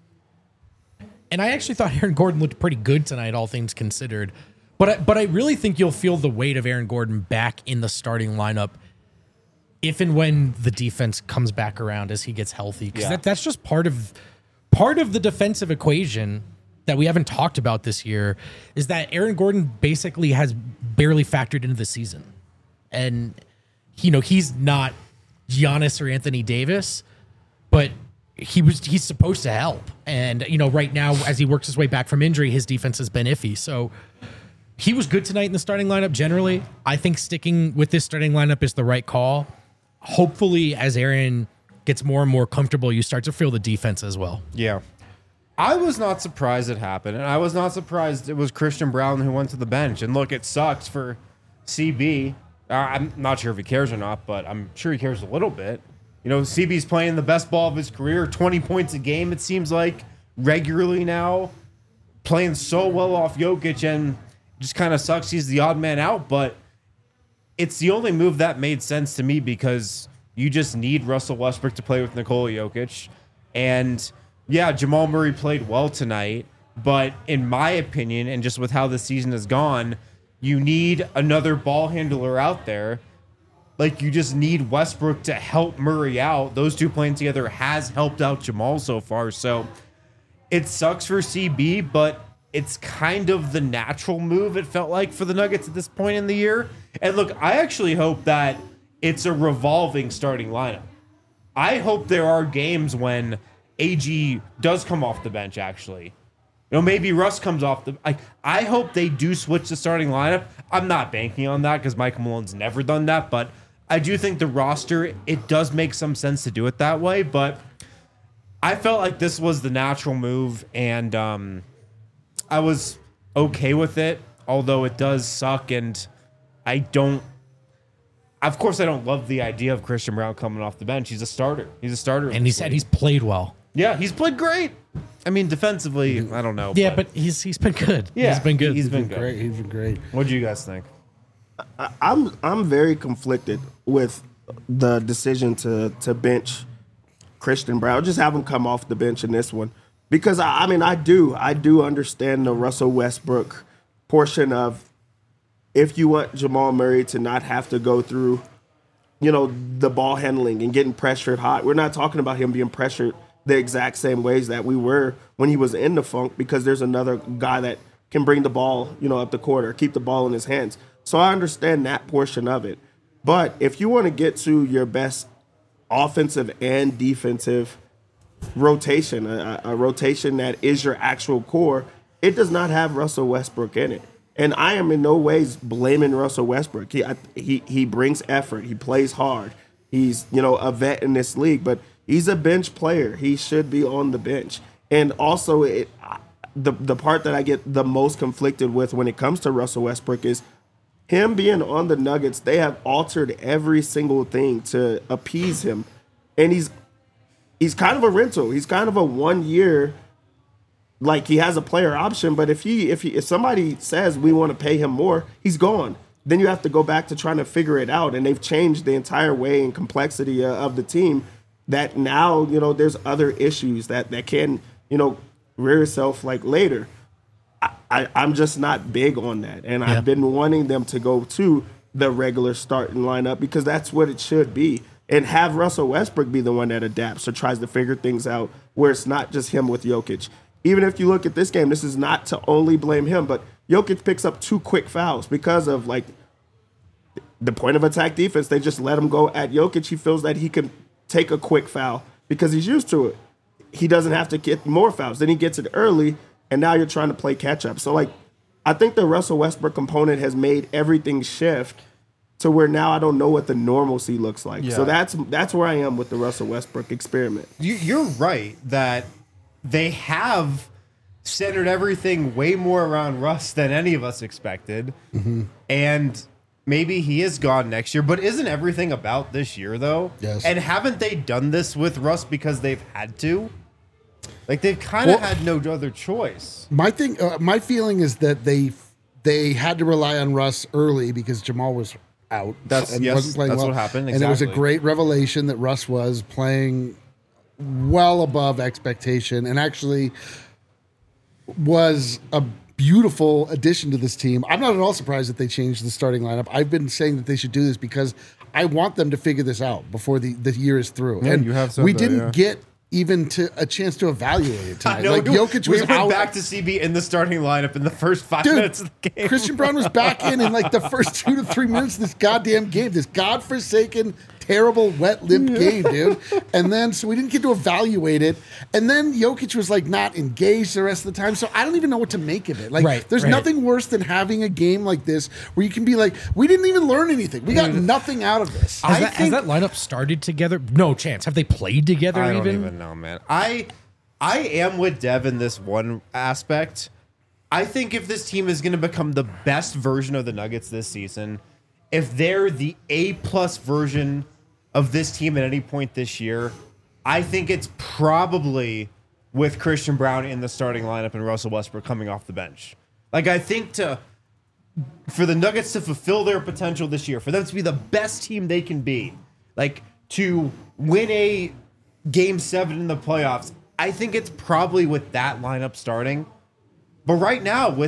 And I actually thought Aaron Gordon looked pretty good tonight, all things considered. But I, but I really think you'll feel the weight of Aaron Gordon back in the starting lineup if and when the defense comes back around as he gets healthy. Because Yeah. that, that's just part of part of the defensive equation that we haven't talked about this year is that Aaron Gordon basically has barely factored into the season. And, you know, he's not Giannis or Anthony Davis, but he was he's supposed to help. And, you know, right now, as he works his way back from injury, his defense has been iffy. So he was good tonight in the starting lineup generally. I think sticking with this starting lineup is the right call. Hopefully, as Aaron gets more and more comfortable, you start to feel the defense as well. Yeah. I was not surprised it happened, and I was not surprised it was Christian Brown who went to the bench. And look, it sucks for C B. Uh, I'm not sure if he cares or not, but I'm sure he cares a little bit. You know, C B's playing the best ball of his career, twenty points a game, it seems like, regularly now, playing so well off Jokic, and just kind of sucks he's the odd man out, but it's the only move that made sense to me because you just need Russell Westbrook to play with Nikola Jokic. And yeah, Jamal Murray played well tonight, but in my opinion, and just with how the season has gone, You need another ball handler out there. Like, you just need Westbrook to help Murray out. Those two playing together has helped out Jamal so far. So it sucks for C B, but it's kind of the natural move, it felt like, for the Nuggets at this point in the year. And look, I actually hope that it's a revolving starting lineup. I hope there are games when A G does come off the bench, actually. You know, maybe Russ comes off the... I, I hope they do switch the starting lineup. I'm not banking on that because Michael Malone's never done that, but I do think the roster, it does make some sense to do it that way, but I felt like this was the natural move, and um, I was okay with it, although it does suck, and I don't... Of course, I don't love the idea of Christian Brown coming off the bench. He's a starter. He's a starter. And he said he's played well. Yeah, he's played great. I mean, defensively, I don't know. Yeah, but, but he's he's been good. Yeah, he's been good. He's been He's been good. great. He's been great. What do you guys think? I'm I'm very conflicted with the decision to to bench Christian Brown. Just have him come off the bench in this one because I, I mean I do I do understand the Russell Westbrook portion of if you want Jamal Murray to not have to go through, you know, the ball handling and getting pressured hot. We're not talking about him being pressured the exact same ways that we were when he was in the funk because there's another guy that can bring the ball, you know, up the court or keep the ball in his hands. So I understand that portion of it. But if you want to get to your best offensive and defensive rotation, a, a rotation that is your actual core, it does not have Russell Westbrook in it. And I am in no ways blaming Russell Westbrook. He I, he he brings effort. He plays hard. He's, you know, a vet in this league, but he's a bench player. He should be on the bench. And also, it, the the part that I get the most conflicted with when it comes to Russell Westbrook is him being on the Nuggets. They have altered every single thing to appease him, and he's he's kind of a rental. He's kind of a one year. Like he has a player option, but if he if he if somebody says we want to pay him more, he's gone. Then you have to go back to trying to figure it out, and they've changed the entire way and complexity uh, of the team. That now you know there's other issues that that can you know rear itself like later. I, I I'm just not big on that, and Yeah. I've been wanting them to go to the regular starting lineup because that's what it should be, and have Russell Westbrook be the one that adapts or tries to figure things out where it's not just him with Jokic. Even if you look at this game, this is not to only blame him, but Jokic picks up two quick fouls because of like the point of attack defense. They just let him go at Jokic. He feels that he can take a quick foul because he's used to it. He doesn't have to get more fouls. Then he gets it early, and now you're trying to play catch up. So like, I think the Russell Westbrook component has made everything shift to where now I don't know what the normalcy looks like. Yeah. So that's that's where I am with the Russell Westbrook experiment. You, you're right that they have centered everything way more around Russ than any of us expected. Mm-hmm. And maybe he is gone next year, but isn't everything about this year, though? Yes. And haven't they done this with Russ because they've had to? Like, they've kind of Well- had no other choice. My thing, uh, my feeling is that they they had to rely on Russ early because Jamal was out. That's- yes, that's what happened, And it was a exactly. great revelation that Russ was playing well above expectation and actually was a beautiful addition to this team. I'm not at all surprised that they changed the starting lineup. I've been saying that they should do this because I want them to figure this out before the, the year is through. Yeah, and you have said we that, didn't yeah. get even to a chance to evaluate it tonight. I know, Like we- Jokic we was went out. back to C B in the starting lineup in the first five Dude, minutes of the game. Christian Brown was back in in like the first two to three minutes of this goddamn game. This godforsaken, terrible, wet limp game, dude. And then, so we didn't get to evaluate it. And then Jokic was like not engaged the rest of the time. So I don't even know what to make of it. Like, Right, there's right. nothing worse than having a game like this where you can be like, we didn't even learn anything. We got nothing out of this. Has, I that, think- has that lineup started together? No chance. Have they played together I don't even? even know, man. I I am with Dev in this one aspect. I think if this team is going to become the best version of the Nuggets this season, if they're the A plus version of this team at any point this year, I think it's probably with Christian Brown in the starting lineup and Russell Westbrook coming off the bench. Like, I think to for the Nuggets to fulfill their potential this year, for them to be the best team they can be, like to win a game seven in the playoffs, I think it's probably with that lineup starting. But right now, with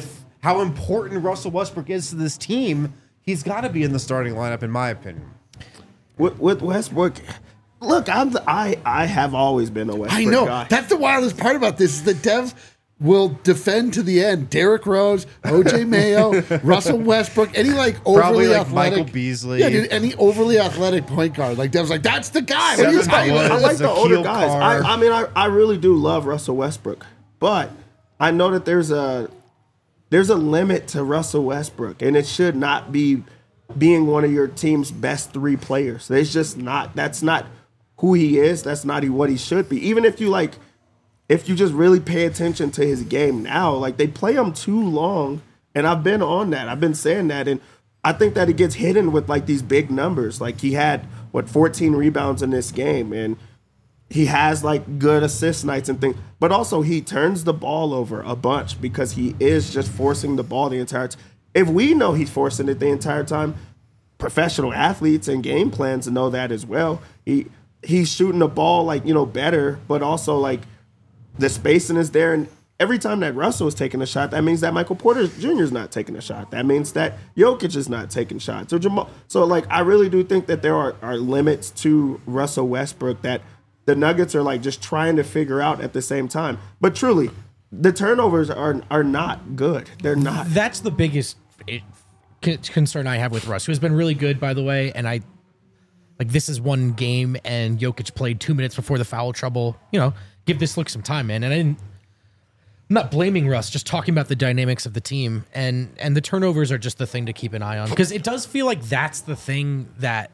how important Russell Westbrook is to this team, he's got to be in the starting lineup, in my opinion. With, with Westbrook, look, I'm the, I I have always been a Westbrook I know. guy. That's the wildest part about this is the Dev will defend to the end. Derrick Rose, O J Mayo, Russell Westbrook, any like overly Probably like athletic. Michael Beasley. Yeah, dude, any overly athletic point guard. Like Dev's like, that's the guy. What are you Seven talking foot. about? I like the older Zakeel guys. Carr. I, I mean, I, I really do love Russell Westbrook, but I know that there's a there's a limit to Russell Westbrook, and it should not be being one of your team's best three players. It's just not. That's not who he is. That's not what he should be. Even if you like, if you just really pay attention to his game now, like they play him too long, and I've been on that. I've been saying that, and I think that it gets hidden with like these big numbers. Like he had what fourteen rebounds in this game, and he has like good assist nights and things, but also he turns the ball over a bunch because he is just forcing the ball the entire time. If we know he's forcing it the entire time, professional athletes and game plans know that as well. He he's shooting the ball like, you know, better, but also like the spacing is there. And every time that Russell is taking a shot, that means that Michael Porter Junior is not taking a shot. That means that Jokic is not taking shots. So Jamal, so like I really do think that there are, are limits to Russell Westbrook that the Nuggets are like just trying to figure out at the same time. But truly, the turnovers are are not good. They're not. That's the biggest it, c- concern I have with Russ, who has been really good, by the way. And I like this is one game, and Jokic played two minutes before the foul trouble. You know, give this look some time, man. And I didn't. I'm not blaming Russ, just talking about the dynamics of the team, and and the turnovers are just the thing to keep an eye on, because it does feel like that's the thing that.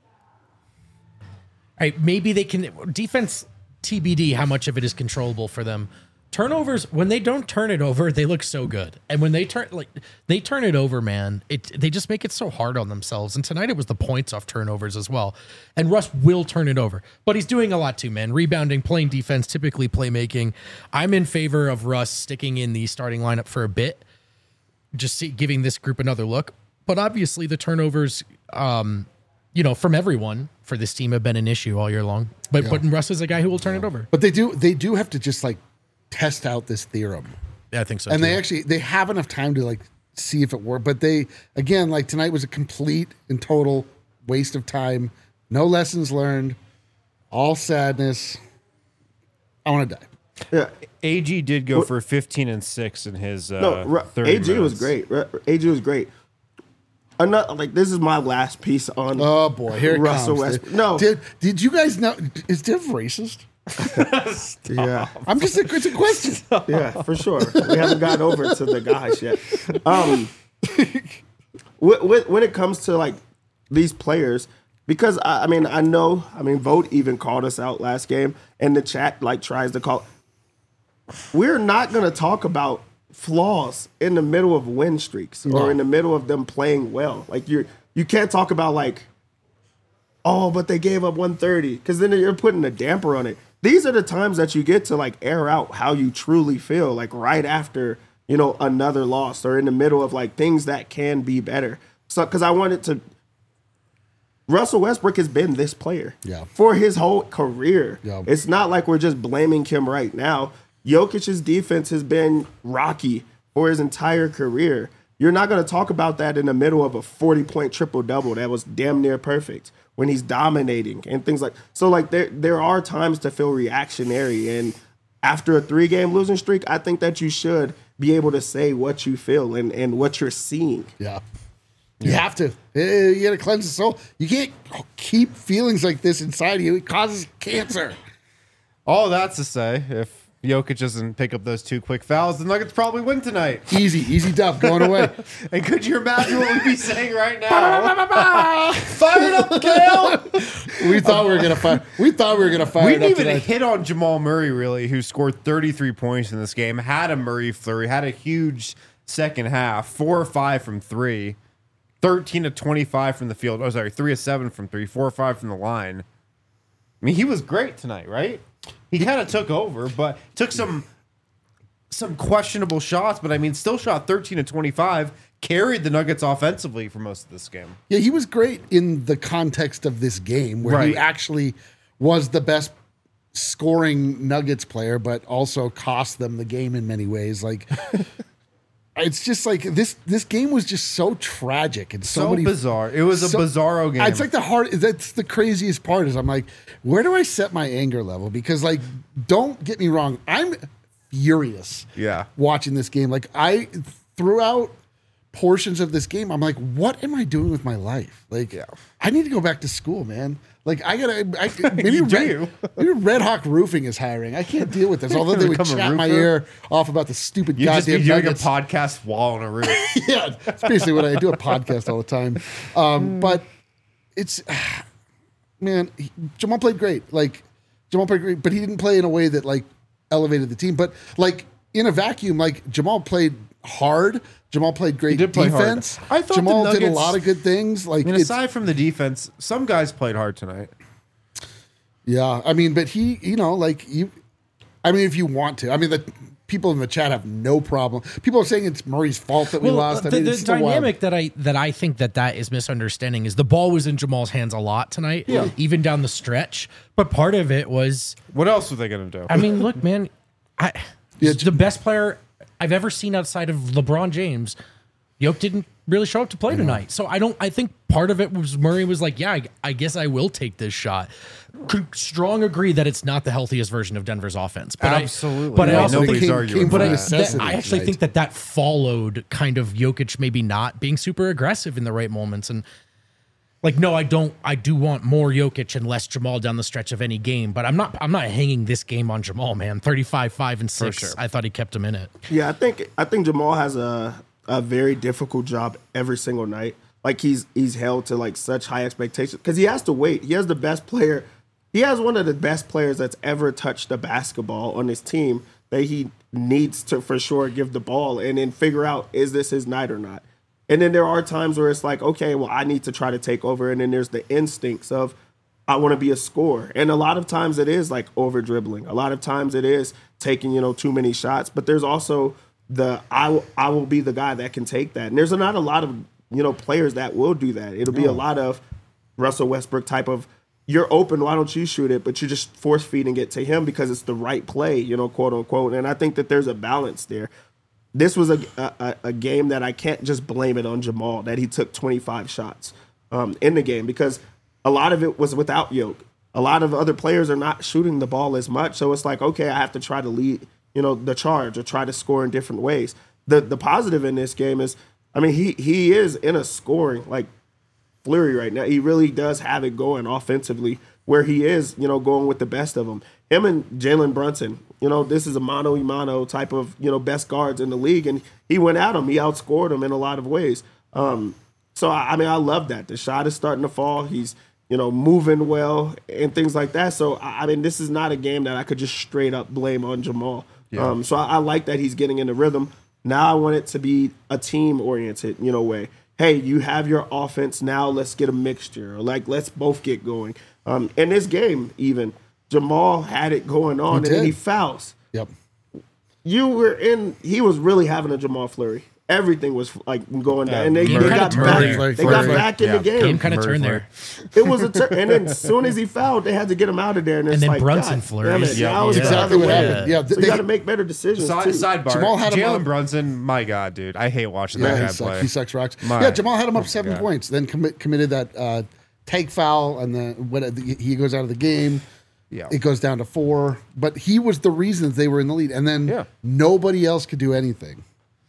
All right, maybe they can defense T B D how much of it is controllable for them. Turnovers, when they don't turn it over, they look so good. And when they turn like they turn it over, man, it they just make it so hard on themselves. And tonight it was the points off turnovers as well. And Russ will turn it over. But he's doing a lot too, man. Rebounding, playing defense, typically playmaking. I'm in favor of Russ sticking in the starting lineup for a bit. Just see, giving this group another look. But obviously the turnovers um you know, from everyone for this team have been an issue all year long. But Yeah. but Russ is a guy who will turn it over. But they do they do have to just like test out this theorem. Yeah, I think so. And too. they actually they have enough time to like see if it worked. But they again, like tonight was a complete and total waste of time. No lessons learned. All sadness. I want to die. Yeah. A G did go for fifteen and six in his uh, No, Ru- thirty A G was minutes. great. Ru- A G was great. Another, like this is my last piece on. Oh boy, here it Russell comes. Westbrook. No. Did did you guys know is Dev racist? Yeah, I'm just a, it's a question. yeah, for sure. We haven't gotten over to the guys yet. Um, wh- wh- when it comes to like these players, because I, I mean, I know, I mean, Vote even called us out last game, and the chat like tries to call. We're not going to talk about flaws in the middle of win streaks or No. in the middle of them playing well. Like you, you can't talk about like, oh, but they gave up one thirty, because then you're putting a damper on it. These are the times that you get to like air out how you truly feel, like right after, you know, another loss or in the middle of like things that can be better. So, because I wanted to, Russell Westbrook has been this player Yeah. for his whole career. Yeah. It's not like we're just blaming him right now. Jokic's defense has been rocky for his entire career. You're not going to talk about that in the middle of a forty-point triple-double that was damn near perfect when he's dominating and things like so. Like there, there are times to feel reactionary, and after a three-game losing streak, I think that you should be able to say what you feel and, and what you're seeing. Yeah. You have to. Eh, You got to cleanse the soul. You can't keep feelings like this inside you. It causes cancer. All that's to say, if Jokic doesn't pick up those two quick fouls, the Nuggets probably win tonight. Easy, easy dub going away. And could you imagine what we'd be saying right now? Fire it up, Kale! We thought we were gonna fire. We thought we were gonna fire We it didn't up even tonight. hit on Jamal Murray, really, who scored thirty-three points in this game, had a Murray flurry, had a huge second half, four or five from three, thirteen to twenty-five from the field. Oh, sorry, three of seven from three, four or five from the line. I mean, he was great tonight, right? He kind of took over, but took some some questionable shots, but I mean, still shot thirteen to twenty-five, carried the Nuggets offensively for most of this game. Yeah, he was great in the context of this game, where he Right. actually was the best scoring Nuggets player, but also cost them the game in many ways. Like, it's just like this. This game was just so tragic and so, So many bizarre. It was a so- bizarro game. It's like the hard. That's the craziest part. Is I'm like, where do I set my anger level? Because like, don't get me wrong, I'm furious. Yeah. Watching this game, like I throughout portions of this game, I'm like, what am I doing with my life? Like, Yeah. I need to go back to school, man. Like, I gotta. I, maybe You Red, do. maybe Red Hawk Roofing is hiring. I can't deal with this. Although they would Become a chat my roofer? ear off about the stupid you just be goddamn doing nuggets. a podcast while on a roof. Yeah, it's basically what I do. A podcast all the time. Um, but it's man, he, Jamal played great. Like Jamal played great, but he didn't play in a way that like elevated the team. But like in a vacuum, like Jamal played hard. Jamal played great did play hard. defense. I thought the Jamal did a Nuggets- lot of good things. Like I mean, it's- aside from the defense, some guys played hard tonight. yeah, I mean, but he, you know, like you. I mean, if you want to, I mean, the people in the chat have no problem. People are saying it's Murray's fault that we lost. I the, mean, the it's still wild. dynamic that I that I think that that is misunderstanding is the ball was in Jamal's hands a lot tonight, Yeah. even down the stretch. But part of it was, What else were they going to do? I mean, look, man, I Yeah, the best player I've ever seen outside of LeBron James. Yoke didn't really show up to play tonight, so I don't. I think part of it was Murray was like, "Yeah, I, I guess I will take this shot." Could strong agree that it's not the healthiest version of Denver's offense, but Absolutely. I, but I Yeah, also nobody's think, arguing came but from I, that. necessity that- I actually tonight. think that that followed kind of Jokic maybe not being super aggressive in the right moments and. Like, no, I don't. I do want more Jokic and less Jamal down the stretch of any game, but I'm not. I'm not hanging this game on Jamal, man. thirty-five, five, and six. sure. I thought he kept him in it. Yeah, I think I think Jamal has a a very difficult job every single night. Like he's he's held to like such high expectations because he has to wait. He has the best player. He has one of the best players that's ever touched a basketball on his team that he needs to for sure give the ball and then figure out is this his night or not. And then there are times where it's like, okay, well, I need to try to take over. And then there's the instincts of I want to be a scorer. And a lot of times it is like over dribbling. A lot of times it is taking, you know, too many shots. But there's also the I will, I will be the guy that can take that. And there's not a lot of, you know, players that will do that. It'll be a lot of Russell Westbrook type of you're open, why don't you shoot it? But you're just force feeding it to him because it's the right play, you know, quote unquote. And I think that there's a balance there. This was a, a a game that I can't just blame it on Jamal that he took twenty-five shots um, in the game because a lot of it was without Yoke. A lot of other players are not shooting the ball as much, so it's like okay, I have to try to lead, you know, the charge or try to score in different ways. The the positive in this game is, I mean, he he is in a scoring like flurry right now. He really does have it going offensively where he is, you know, going with the best of them. Him and Jalen Brunson, you know, this is a mano a mano type of, you know, best guards in the league. And he went at him. He outscored him in a lot of ways. Um, so, I, I mean, I love that. The shot is starting to fall. He's, you know, moving well and things like that. So, I, I mean, this is not a game that I could just straight up blame on Jamal. Um, so, I, I like that he's getting in the rhythm. Now I want it to be a team-oriented, you know, way. Hey, you have your offense. Now let's get a mixture. Or like, let's both get going. Um, in this game, even, Jamal had it going on, and then did. he fouls. Yep. You were in. He was really having a Jamal flurry. Everything was like going down, and they, they Murray- got Murray- back. Murray- They got Murray- back in yeah. the game. Game kind of Murray turned flurry. there. It was a turn, and then as soon as he fouled, they had to get him out of there. And, it's And then like, Brunson God flurries. damn it. Yeah, Now it's yeah. the Exactly other what way. happened. Yeah, So they- you got to make better decisions Side, too. sidebar. Jamal had him Jalen up- Brunson, my God, dude. I hate watching Yeah, that he guy sucks. play. He sucks rocks. My- yeah, Jamal had him up seven God. points, then commit, committed that uh, take foul, and then when he goes out of the game. Yeah. It goes down to four, but he was the reason they were in the lead, and then Yeah. nobody else could do anything.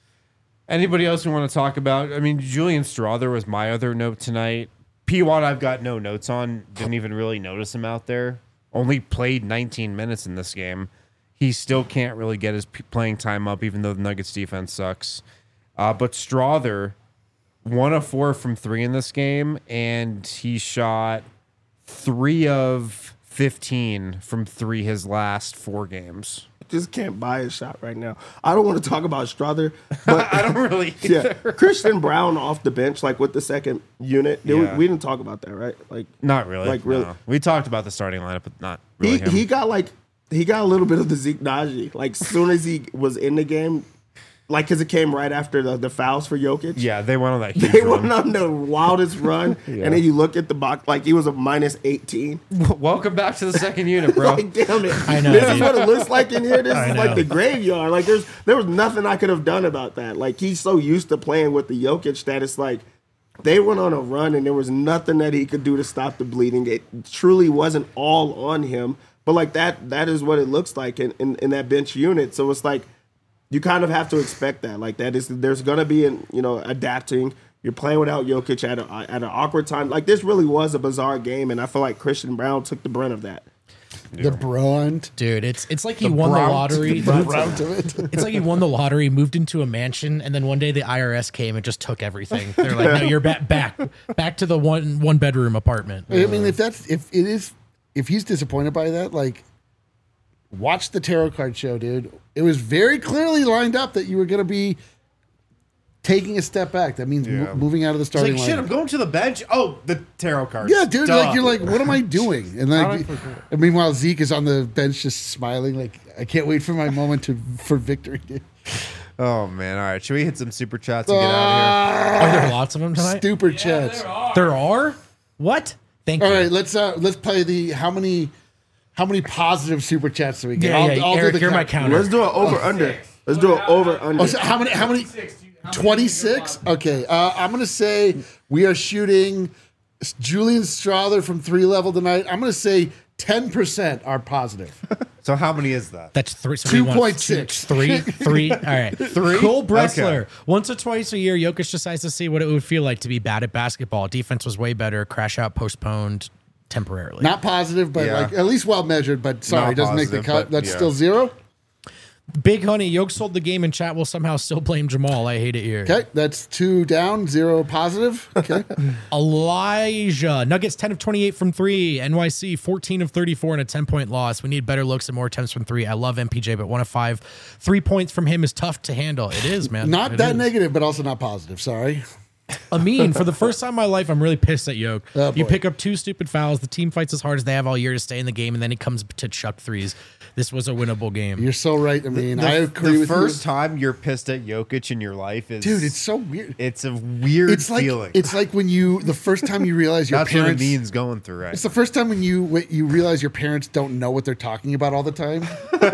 Anybody else we want to talk about? I mean, Julian Strother was my other note tonight. P. Watt, I've got no notes on. Didn't even really notice him out there. Only played nineteen minutes in this game. He still can't really get his p- playing time up, even though the Nuggets defense sucks. Uh, but Strother, one of four from three in this game, and he shot three of fifteen from three his last four games. Just can't buy a shot right now. I don't want to talk about Strother, but I don't really. yeah, Christian Brown off the bench, like with the second unit. Did we- Yeah. we, didn't talk about that, right? Like, Not really. Like, really- no. We talked about the starting lineup, but not really he him. he got like he got a little bit of the Zeke Naji. Like, soon as he was in the game, like because it came right after the, the fouls for Jokic. Yeah, they went on that huge They run. went on the wildest run, Yeah. and then you look at the box, like he was a minus eighteen. Welcome back to the second unit, bro. Like, damn it. I know, This is dude. what it looks like in here. This I is know. like the graveyard. Like there's there was nothing I could have done about that. Like he's so used to playing with the Jokic that it's like they went on a run and there was nothing that he could do to stop the bleeding. It truly wasn't all on him. But like that that is what it looks like in, in, in that bench unit. So it's like you kind of have to expect that. Like that is there's gonna be an you know, adapting. You're playing without Jokic at a, at an awkward time. Like this really was a bizarre game, and I feel like Christian Brown took the brunt of that. The brunt. Dude, it's it's like he The won the brunt. lottery. The brunt of it. It's like he won the lottery, moved into a mansion, and then one day the I R S came and just took everything. They're like, "No, you're back, back, back to the one one bedroom apartment." I mean, if that's if it is if he's disappointed by that, like watch the tarot card show, dude. It was very clearly lined up that you were going to be taking a step back. That means mo- Yeah. moving out of the It's starting like, line. shit, I'm going to the bench. Oh, the tarot cards. Yeah, dude. Duh. Like you're like, what am I doing? And How like, did I forget? and meanwhile, Zeke is on the bench just smiling. Like, I can't wait for my moment to for victory. Dude. Oh, man. All right. Should we hit some super chats and get out of Ah, Are there lots of them tonight? Stupid chats. There are? What? Thank All you. right, let's uh let's play the how many how many positive super chats do we get? Yeah, I'll, yeah. I'll do Eric, the you're my count. counter. Let's do an over under. Let's do an over under. Oh, so how many? How many? twenty-six. Okay, uh, I'm gonna say we are shooting Julian Strother from three level tonight. I'm gonna say ten percent are positive. here? So how many is that? That's three. So we want two point six. two- Three, three. All right. Three? Cole Bressler. Okay. Once or twice a year, Jokic decides to see what it would feel like to be bad at basketball. Defense was way better. Crash out postponed temporarily. Not positive, but Yeah. like at least well measured. But sorry, Not it doesn't make the positive, cut. but That's yeah. still zero. Big Honey, Yoke sold the game and chat will somehow still blame Jamal. I hate it here. Okay, that's two down, zero positive. Okay, Elijah. Nuggets ten of twenty-eight from three. N Y C fourteen of thirty-four and a ten-point loss. We need better looks and more attempts from three. I love M P J, but one of five. Three points from him is tough to handle. It is, man. not It that is. negative, but also not positive. Sorry. Amin, for the first time in my life, I'm really pissed at Yoke. Oh, you boy. pick up two stupid fouls. The team fights as hard as they have all year to stay in the game, and then he comes to chuck threes. This was a winnable game. You're so right. I mean, The, I agree the with first you. time you're pissed at Jokic in your life is Dude, it's so weird. it's a weird It's like feeling. it's like when you the first time you realize your That's what parents. Amin's going through right It's the first time when you when you realize your parents don't know what they're talking about all the time.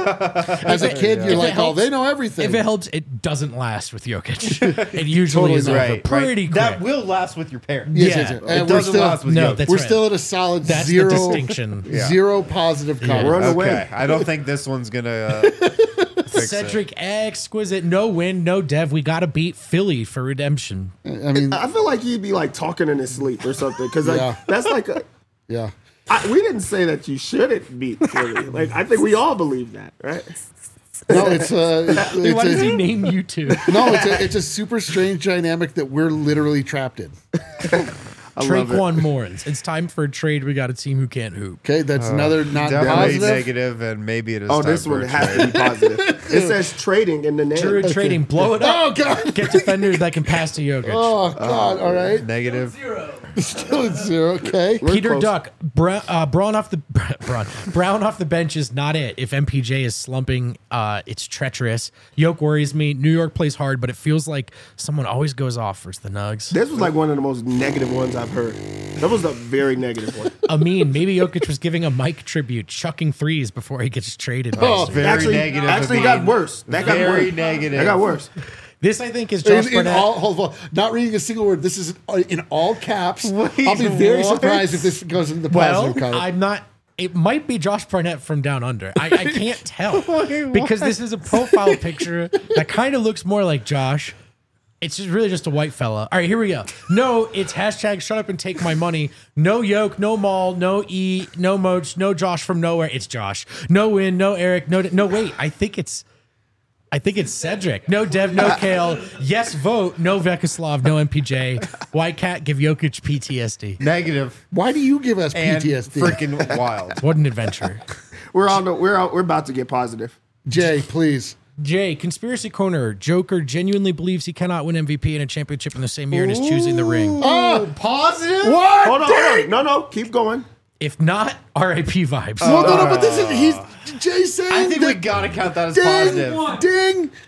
As a kid, you're If it like, oh, helps- they know everything. If it helps, it doesn't last with Jokic. It usually Totally is over right, pretty right. quick. That will last with your parents. Yes, yeah. yes, yes. It And we're doesn't still last with No, Jokic. that's we're right. still at a solid That's zero the distinction. Yeah. zero positive comment. We're on the Okay, way. I don't think this one's gonna uh, fix Cedric exquisite. No win, no dev. We got to beat Philly for redemption. I mean, I feel like he'd be like talking in his sleep or something because like Yeah. that's like a, yeah. I, we didn't say that you shouldn't beat Philly. Like I think we all believe that, right? No, it's uh, it's, Why it's does he a, name you two? no, it's a, it's a super strange dynamic that we're literally trapped in. I love it. Traquan Morans. It's time for a trade. We got a team who can't hoop. Okay, that's another not definitely positive. negative, and maybe it is. Oh, time this for one a has trade. to be positive. It says trading in the name. True trading. Blow it up. Oh god. Get defenders that can pass to Jokic. Oh god. All right. negative. Zero. Still at zero. Okay. We're Peter close. Duck, Brown, uh, Brown off the Brown, Brown off the bench is not it. If M P J is slumping, uh, it's treacherous. Yoke worries me. New York plays hard, but it feels like someone always goes off versus the Nugs. This was like one of the most negative ones I've heard. That was a very negative one. Amin, maybe Jokic was giving a Mike tribute, chucking threes before he gets traded. Oh, next year. Very actually, negative. Actually, Amin. got worse. That got Very worse. negative. That got worse. This, I think, is Josh In, in Barnett. all, hold on, not reading a single word. This is uh, in all caps. Wait, I'll be very what? surprised if this goes into the well, positive column. I'm not. It might be Josh Barnett from Down Under. I, I can't tell because this is a profile picture that kind of looks more like Josh. It's just really just a white fella. All right, here we go. No, it's hashtag shut up and take my money. No Yoke, no Maul, no E, no Moach, no Josh from nowhere. It's Josh. No Win, no Eric, no. No, wait. I think it's. I think it's Cedric. No Dev, no Kale. Yes, vote. No Vekoslav, no M P J. Why can't give Jokic P T S D? Negative Why do you give us and P T S D? freaking wild. What an adventure. We're on the. We're out, we're about to get positive. Jay, please. Jay, Conspiracy Corner. Joker genuinely believes he cannot win M V P and a championship in the same year and is choosing the ring. Oh, Positive? what? Hold on, hold on. No, no. Keep going. If not, R I P vibes. Well, no, no, but this is he's Jay saying I think that we gotta count that as ding, positive. ding.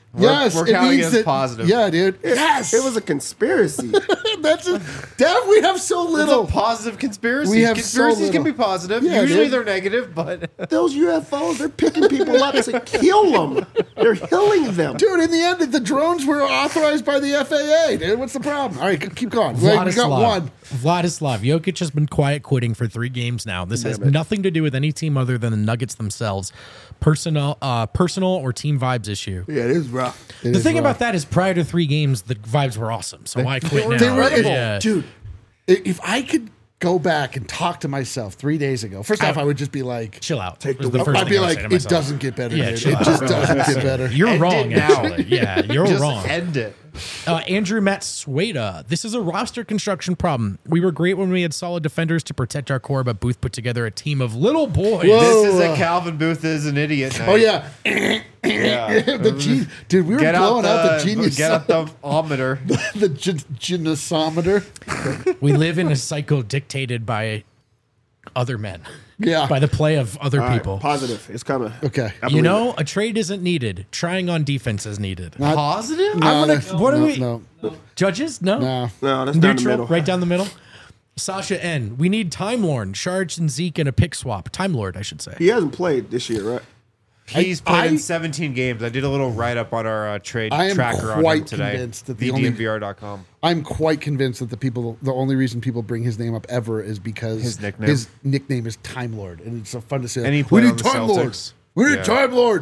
We're, yes, we're it counting means as that, positive. Yeah, dude. Yes, It was a conspiracy. That's a, Dev, we have so It's little. a positive conspiracy. We have Conspiracies so can be little. positive. Yeah, Usually dude. they're negative, but Those U F Os, they're picking people up to kill them. They're killing them. Dude, in the end, the drones were authorized by the F A A, dude. What's the problem? All right, g- keep going. Like, we got Vladislav. one. Vladislav. Jokic has been quiet quitting for three games now. This has nothing to do with any team other than the Nuggets themselves. Personal, uh, personal or team vibes issue. Yeah, it is rough. It The is thing rough. about that is prior to three games, the vibes were awesome. So why quit now? They were, it- Yeah. dude. i- If I could go back and talk to myself three days ago, first off, I would just be like, Chill out. Take was the the first I'd thing be I would like, say to it myself. doesn't get better, Yeah, dude. chill It out. just doesn't get better. You're End wrong, it now. actually. Yeah, you're just wrong. end it. Uh, Andrew Matsueda. This is a roster construction problem. We were great when we had solid defenders to protect our core, but Booth put together a team of little boys. Whoa. This is uh, a Calvin Booth is an idiot night. Oh, yeah. yeah. the G- dude, we were Get blowing out out the, genius. Get out the ometer. the g- geniusometer. We live in a cycle dictated by other men, Yeah. by the play of other All right, people. positive. It's coming. Okay. I You believe know, a trade isn't needed. Trying on defense is needed. Not- Positive? No, gonna- that's- what are no, we- No, Judges? No. no. it. No, that's down the Neutral, middle. right down the middle. Sasha N. We need Time Lord, Sharge and Zeke, and a pick swap. Time Lord, I should say. He hasn't played this year, right? He's played I- in seventeen games. I did a little write up on our uh, trade I am tracker on him quite today. convinced that the the only- D M V R dot com. I'm quite convinced that the people, the only reason people bring his name up ever is because His nickname. his nickname is Time Lord, and it's so fun to say. And he we played need on the Time Lord. Celtics. We need Yeah. Time Lord.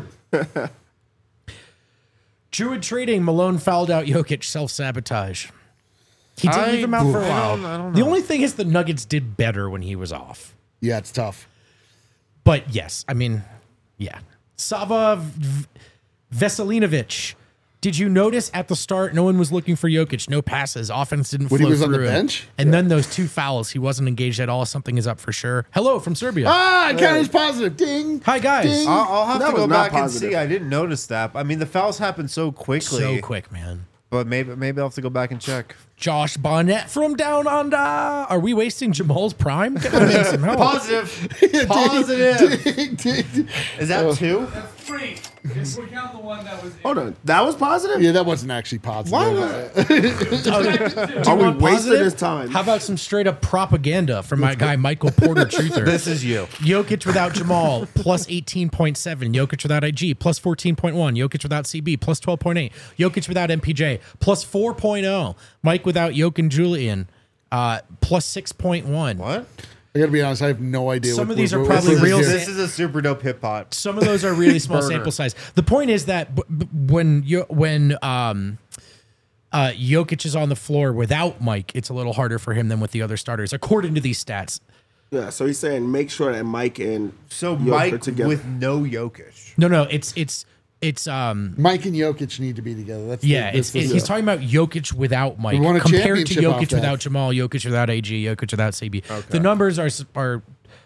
Druid trading. Malone fouled out Jokic. Self sabotage. He did I- leave him out for a I while. don't- I don't The know. only thing is the Nuggets did better when he was off. Yeah, it's tough. But yes, I mean, yeah. Sava v- Veselinovic. Did you notice at the start no one was looking for Jokic? No passes. Offense didn't When flow he was on the through him. bench? And then those two fouls, he wasn't engaged at all. Something is up for sure. Hello from Serbia. Ah, I counted as positive. Ding. Hi, guys. Ding. I'll, I'll have That to go was not back and positive. see. I didn't notice that. I mean, the fouls happen so quickly. So quick, man. But maybe maybe I'll have to go back and check. Josh Barnett from Down Under. Are we wasting Jamal's prime? Get my man some help. Positive. Positive. Ding, ding, ding. Is that two? That's three. If we count the one that was. Hold on. That was positive? Yeah, that wasn't actually positive. Why was Are we Want wasting positive? his time? How about some straight up propaganda from my guy Michael Porter Truther? This is you. Jokic without Jamal, plus eighteen point seven. Jokic without I G, plus fourteen point one. Jokic without C B, plus twelve point eight. Jokic without M P J, plus four point oh. Mike without Jokic and Julian, uh, plus six point one. What? I gotta be honest. I have no idea. Some what, of these what- are what- probably what- real. This is a super dope hip hop. Some of those are really small Burner. sample size. The point is that b- b- when you when um, uh, Jokic is on the floor without Mike, it's a little harder for him than with the other starters, according to these stats. Yeah, so he's saying make sure that Mike and So Jokic are Mike together. with no Jokic. No, no, it's it's it's um. Mike and Jokic need to be together. That's the- Yeah, that's it's, the- it, he's talking about Jokic without Mike We won a compared to championship off Jokic that. without Jamal, Jokic without A G, Jokic without C B. The numbers are are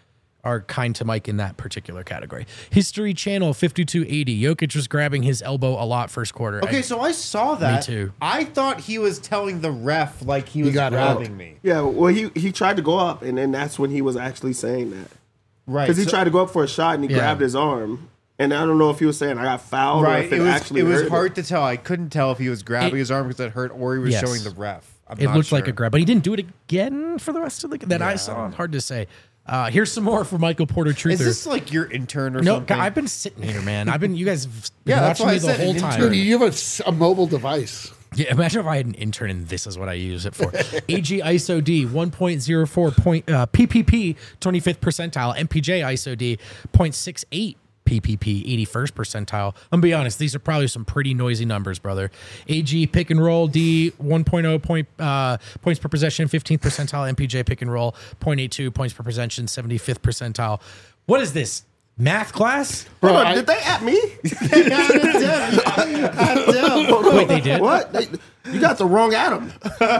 are kind to Mike in that particular category. History Channel fifty-two eighty. Jokic was grabbing his elbow a lot first quarter. Okay, I- so I saw that. too. I thought he was telling the ref like he was got out. grabbing me. Yeah, well, he he tried to go up, and then that's when he was actually saying that. Right. Because he so- tried to go up for a shot, and he Yeah. grabbed his arm. And I don't know if he was saying I got fouled or Right. if It it, was actually it was hurt. hard to tell. I couldn't tell if he was grabbing It- his arm because it hurt or he was Yes. showing the ref. I'm it not looked like sure. a grab, but he didn't do it again for the rest of the that I saw. Hard to say. Uh, here's some more for Michael Porter Truther. Is this like your intern or no, something? I've been sitting here, man. I've been. You guys have been Yeah, that's watching why me I the said whole an time. Dude, you have a s- a, mobile device. Yeah, imagine if I had an intern and this is what I use it for. A G I S O D one point zero four point uh, P P P twenty-fifth percentile, M P J I S O D zero point six eight P P P eighty-first percentile. I'm gonna be honest, these are probably some pretty noisy numbers, brother. A G pick and roll D one point oh point uh, points per possession, fifteenth percentile. M P J pick and roll zero point eight two points per possession, seventy-fifth percentile. What is this? Math class? Hold on, I- did they at me? Wait, they did? What? They, you got the wrong Adam.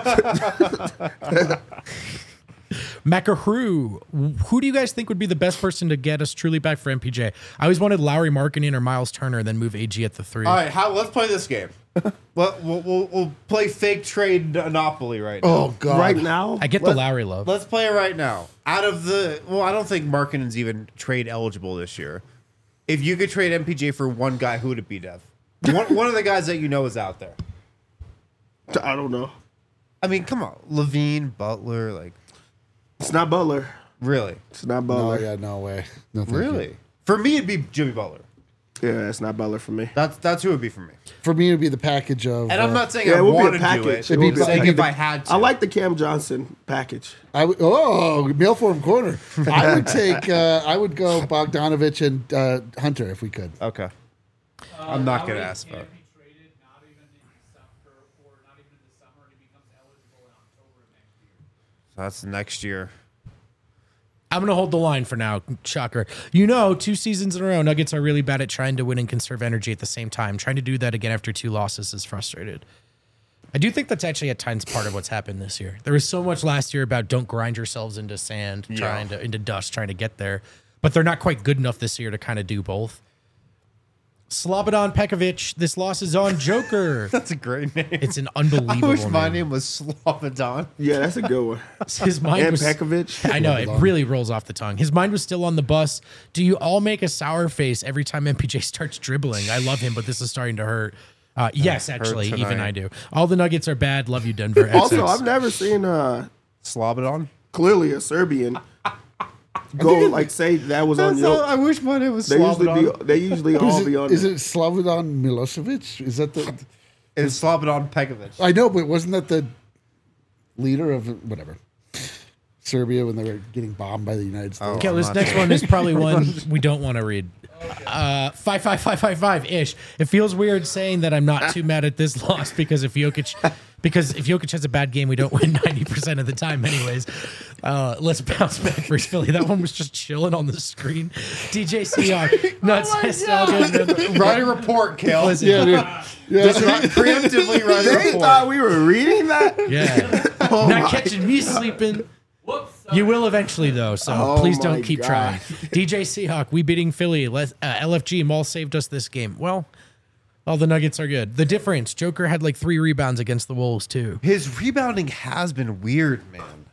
Macahroo, who do you guys think would be the best person to get us truly back for M P J? I always wanted Lowry Markkinen or Miles Turner, then move A G at the three. All right, how, let's play this game. Well, we'll, we'll, we'll play fake trade Monopoly right now. Oh God! Right now, I get the Let- Lowry love. Let's play it right now. Out of the, well, I don't think Markkinen's even trade eligible this year. If you could trade M P J for one guy, who would it be, Dev? one, one of the guys that you know is out there. I don't know. I mean, come on, Levine, Butler, like It's not Butler. really, It's not Oh Butler. yeah, no way. No, thank you. really. For me, it'd be Jimmy Butler. Yeah, it's not Butler for me. That's that's who it would be for me. For me, it'd be the package of. And I'm uh, not saying Yeah, I it would be a want to do package. it. It would I'm be a saying package. if I had to. I like the Cam Johnson package. I would, oh, mail form corner. I would take. Uh, I would go Bogdanovich and uh, Hunter if we could. Okay. I'm not How gonna he ask can't about it. be traded, not even in December or not even in the summer, and he becomes eligible in October of next year. So that's next year. I'm going to hold the line for now. Shocker. You know, two seasons in a row, Nuggets are really bad at trying to win and conserve energy at the same time. Trying to do that again after two losses is frustrated. I do think that's actually at times part of what's happened this year. There was so much last year about don't grind yourselves into sand, Yeah. trying to into dust, trying to get there. But they're not quite good enough this year to kind of do both. Slobodan Pekovic, this loss is on Joker. That's a great name. It's an I unbelievable wish my name. name was Slobodan. Yeah, that's a good one. His mind And was Pekovic. I know, it really rolls off the tongue. His mind was still on the bus. Do you all make a sour face every time M P J starts dribbling? I love him, but this is starting to hurt. Uh, yes, actually, even tonight. I do. All the Nuggets are bad. Love you, Denver. Also, X X. I've never seen uh Slobodan? clearly a Serbian go like say that was on That's all- your. I wish my name was They usually Slobodan. be. They usually Is all it, be on. is there. it Slobodan Milosevic? Is that the? It's Slobodan Pekovic. I know, but wasn't that the leader of whatever Serbia when they were getting bombed by the United States? Okay, I'm this not next sure. one is probably one we don't want to read. Uh, five five five five five ish. It feels weird saying that I'm not too mad at this loss because if Jokic, because if Jokic has a bad game, we don't win ninety percent of the time, anyways. Uh, let's bounce back versus Philly. That one was just chilling on the screen. D J Seahawk, nuts, nostalgia. Write a report, Kale. Listen, Yeah, dude. Yeah. Just write- preemptively write a They report. thought we were reading that. yeah. Oh Not my catching me sleeping. Whoops. You will eventually, though, so Oh please my don't keep God. trying. D J Seahawk, we beating Philly. Les- uh, L F G, Maul saved us this game. Well, all the Nuggets are good. The difference, Joker had like three rebounds against the Wolves, too. His rebounding has been weird, man.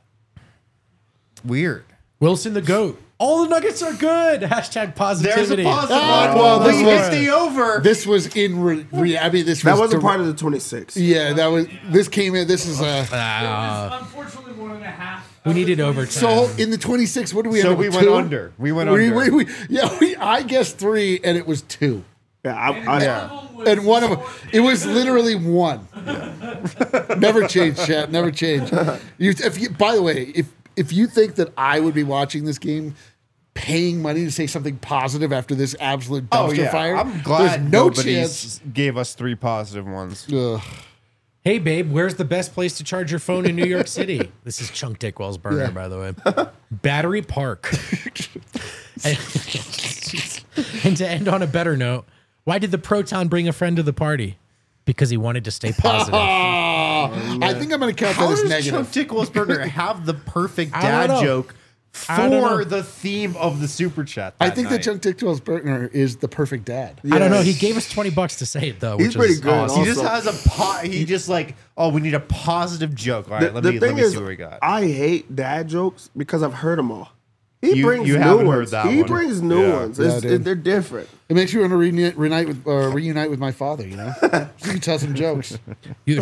Weird. Wilson the GOAT. All the Nuggets are good. Hashtag There's a positivity. positive Ah, one. well, this We was- hit the over. This was in re, re, I mean, this That was wasn't dir- part of the twenty-six. Yeah, that was. This came in. This is uh Ah, Unfortunately, one and a half. we of the needed twenty-six. overtime. So in the twenty-six, what do we? So end up we with, went two? under. We went We, under. we, we, yeah, we, I guessed three, and it was two, Yeah, I, And I, one Yeah. of them was and one of them, short it was and- literally one. Never change, chat. Never change. You, if you, by the way, if if you think that I would be watching this game, paying money to say something positive after this absolute dumpster Oh yeah, fire, I'm glad there's no nobody chance. gave us three positive ones. Ugh. Hey, babe, where's the best place to charge your phone in New York City? This is Chunk Dickwell's burner, Yeah. by the way. Battery Park. and, and to end on a better note, why did the Proton bring a friend to the party? Because he wanted to stay positive. I think I'm going to count How that as does negative. Chuck Dickwellsburger have the perfect I don't dad know. joke I don't know. for the theme of the super chat? I that think night? that Chuck Dickwell's partner is the perfect dad. I don't know. He Yes. gave us twenty bucks to say it, though. He's which pretty is good. awesome. He just Also- has a po- he just like, oh, we need a positive joke. All right, the, let the me let thing me is, see what we got. I hate dad jokes because I've heard them all. He You- brings you new haven't heard ones. that he one. brings new Yeah. ones. Yeah, It's, dude. it, they're different. It makes you want to reunite, reunite with uh, reunite with my father. You know, you can tell some jokes. You-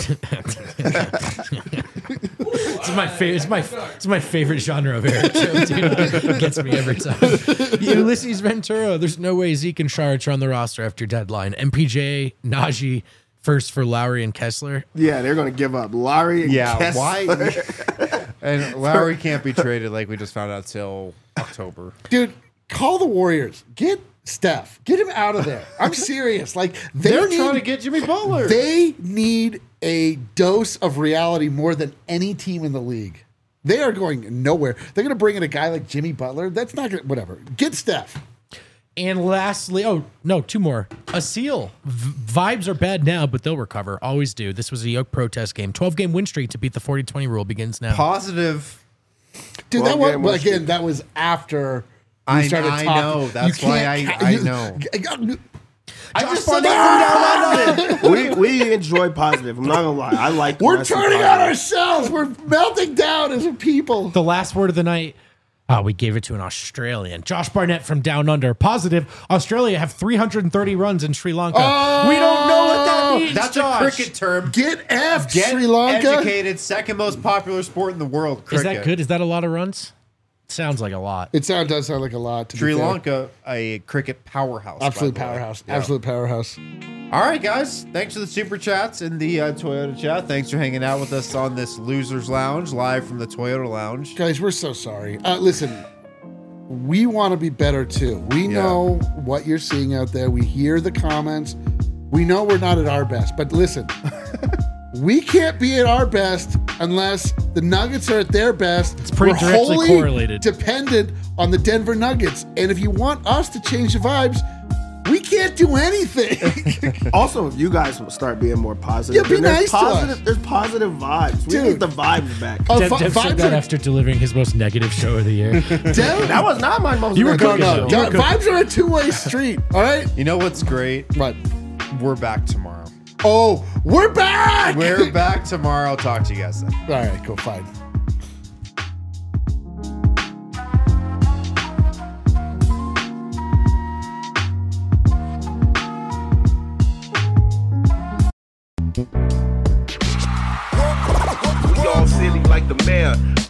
it's my favorite. It's my it's my favorite genre of Eric joke, dude. It gets me every time. Ulysses Ventura. There's no way Zeke and Sharich are on the roster after deadline. M P J, Najee, first for Lowry and Kessler. Yeah, they're gonna give up. Larry and yeah, Kessler. why? And Lowry can't be traded like we just found out till October. Dude, call the Warriors. Get Steph. Get him out of there. I'm serious. Like they They're need, trying to get Jimmy Butler. They need a dose of reality more than any team in the league. They are going nowhere. They're going to bring in a guy like Jimmy Butler. That's not going to, whatever. Get Steph. And lastly, oh no, two more. A seal. V- vibes are bad now, but they'll recover. Always do. This was a yoke protest game. twelve game win streak to beat the forty twenty rule begins now. Positive. Dude, Well, that was, game well, was- again, that was after we I- started I talking. know. That's You why can't I- ca- I you- know. I Josh just said Barnett that. we we enjoy positive. I'm not gonna lie. I like. the We're rest of turning positive. on ourselves. We're melting down as a people. The last word of the night. Oh, we gave it to an Australian. Josh Barnett from Down Under. Positive. Australia have three hundred thirty runs in Sri Lanka. Oh, we don't know what that means. That's Josh. a cricket term. Get effed, Get Sri Lanka. educated. Second most popular sport in the world. Is Cricket. that good? Is that a lot of runs? Sounds like a lot. It sound, does sound like a lot. To Sri be fair. Lanka, a cricket powerhouse. Absolute by the way. powerhouse. Yeah. Absolute powerhouse. All right, guys. Thanks for the super chats in the uh, Toyota chat. Thanks for hanging out with us on this Losers Lounge, live from the Toyota Lounge. Guys, we're so sorry. Uh, listen, we want to be better too. We Yeah. know what you're seeing out there. We hear the comments. We know we're not at our best, but listen, we can't be at our best unless the Nuggets are at their best. It's pretty directly wholly correlated. Dependent on the Denver Nuggets. And if you want us to change the vibes, we can't do anything. Also, if you guys will start being more positive, Yeah, be then there's nice to positive, us. There's positive vibes. We Dude. need the vibes back. Uh, Dev, vi- Dev said vibes that are after delivering his most negative show of the year. Dev- That was not my most. You were negative cooking, no, though. no, You were vibes are a two-way street. All right. You know what's great? What? We're back tomorrow. Oh, we're back. We're back tomorrow. I'll talk to you guys then. All right, cool, fine. We all silly like the mayor.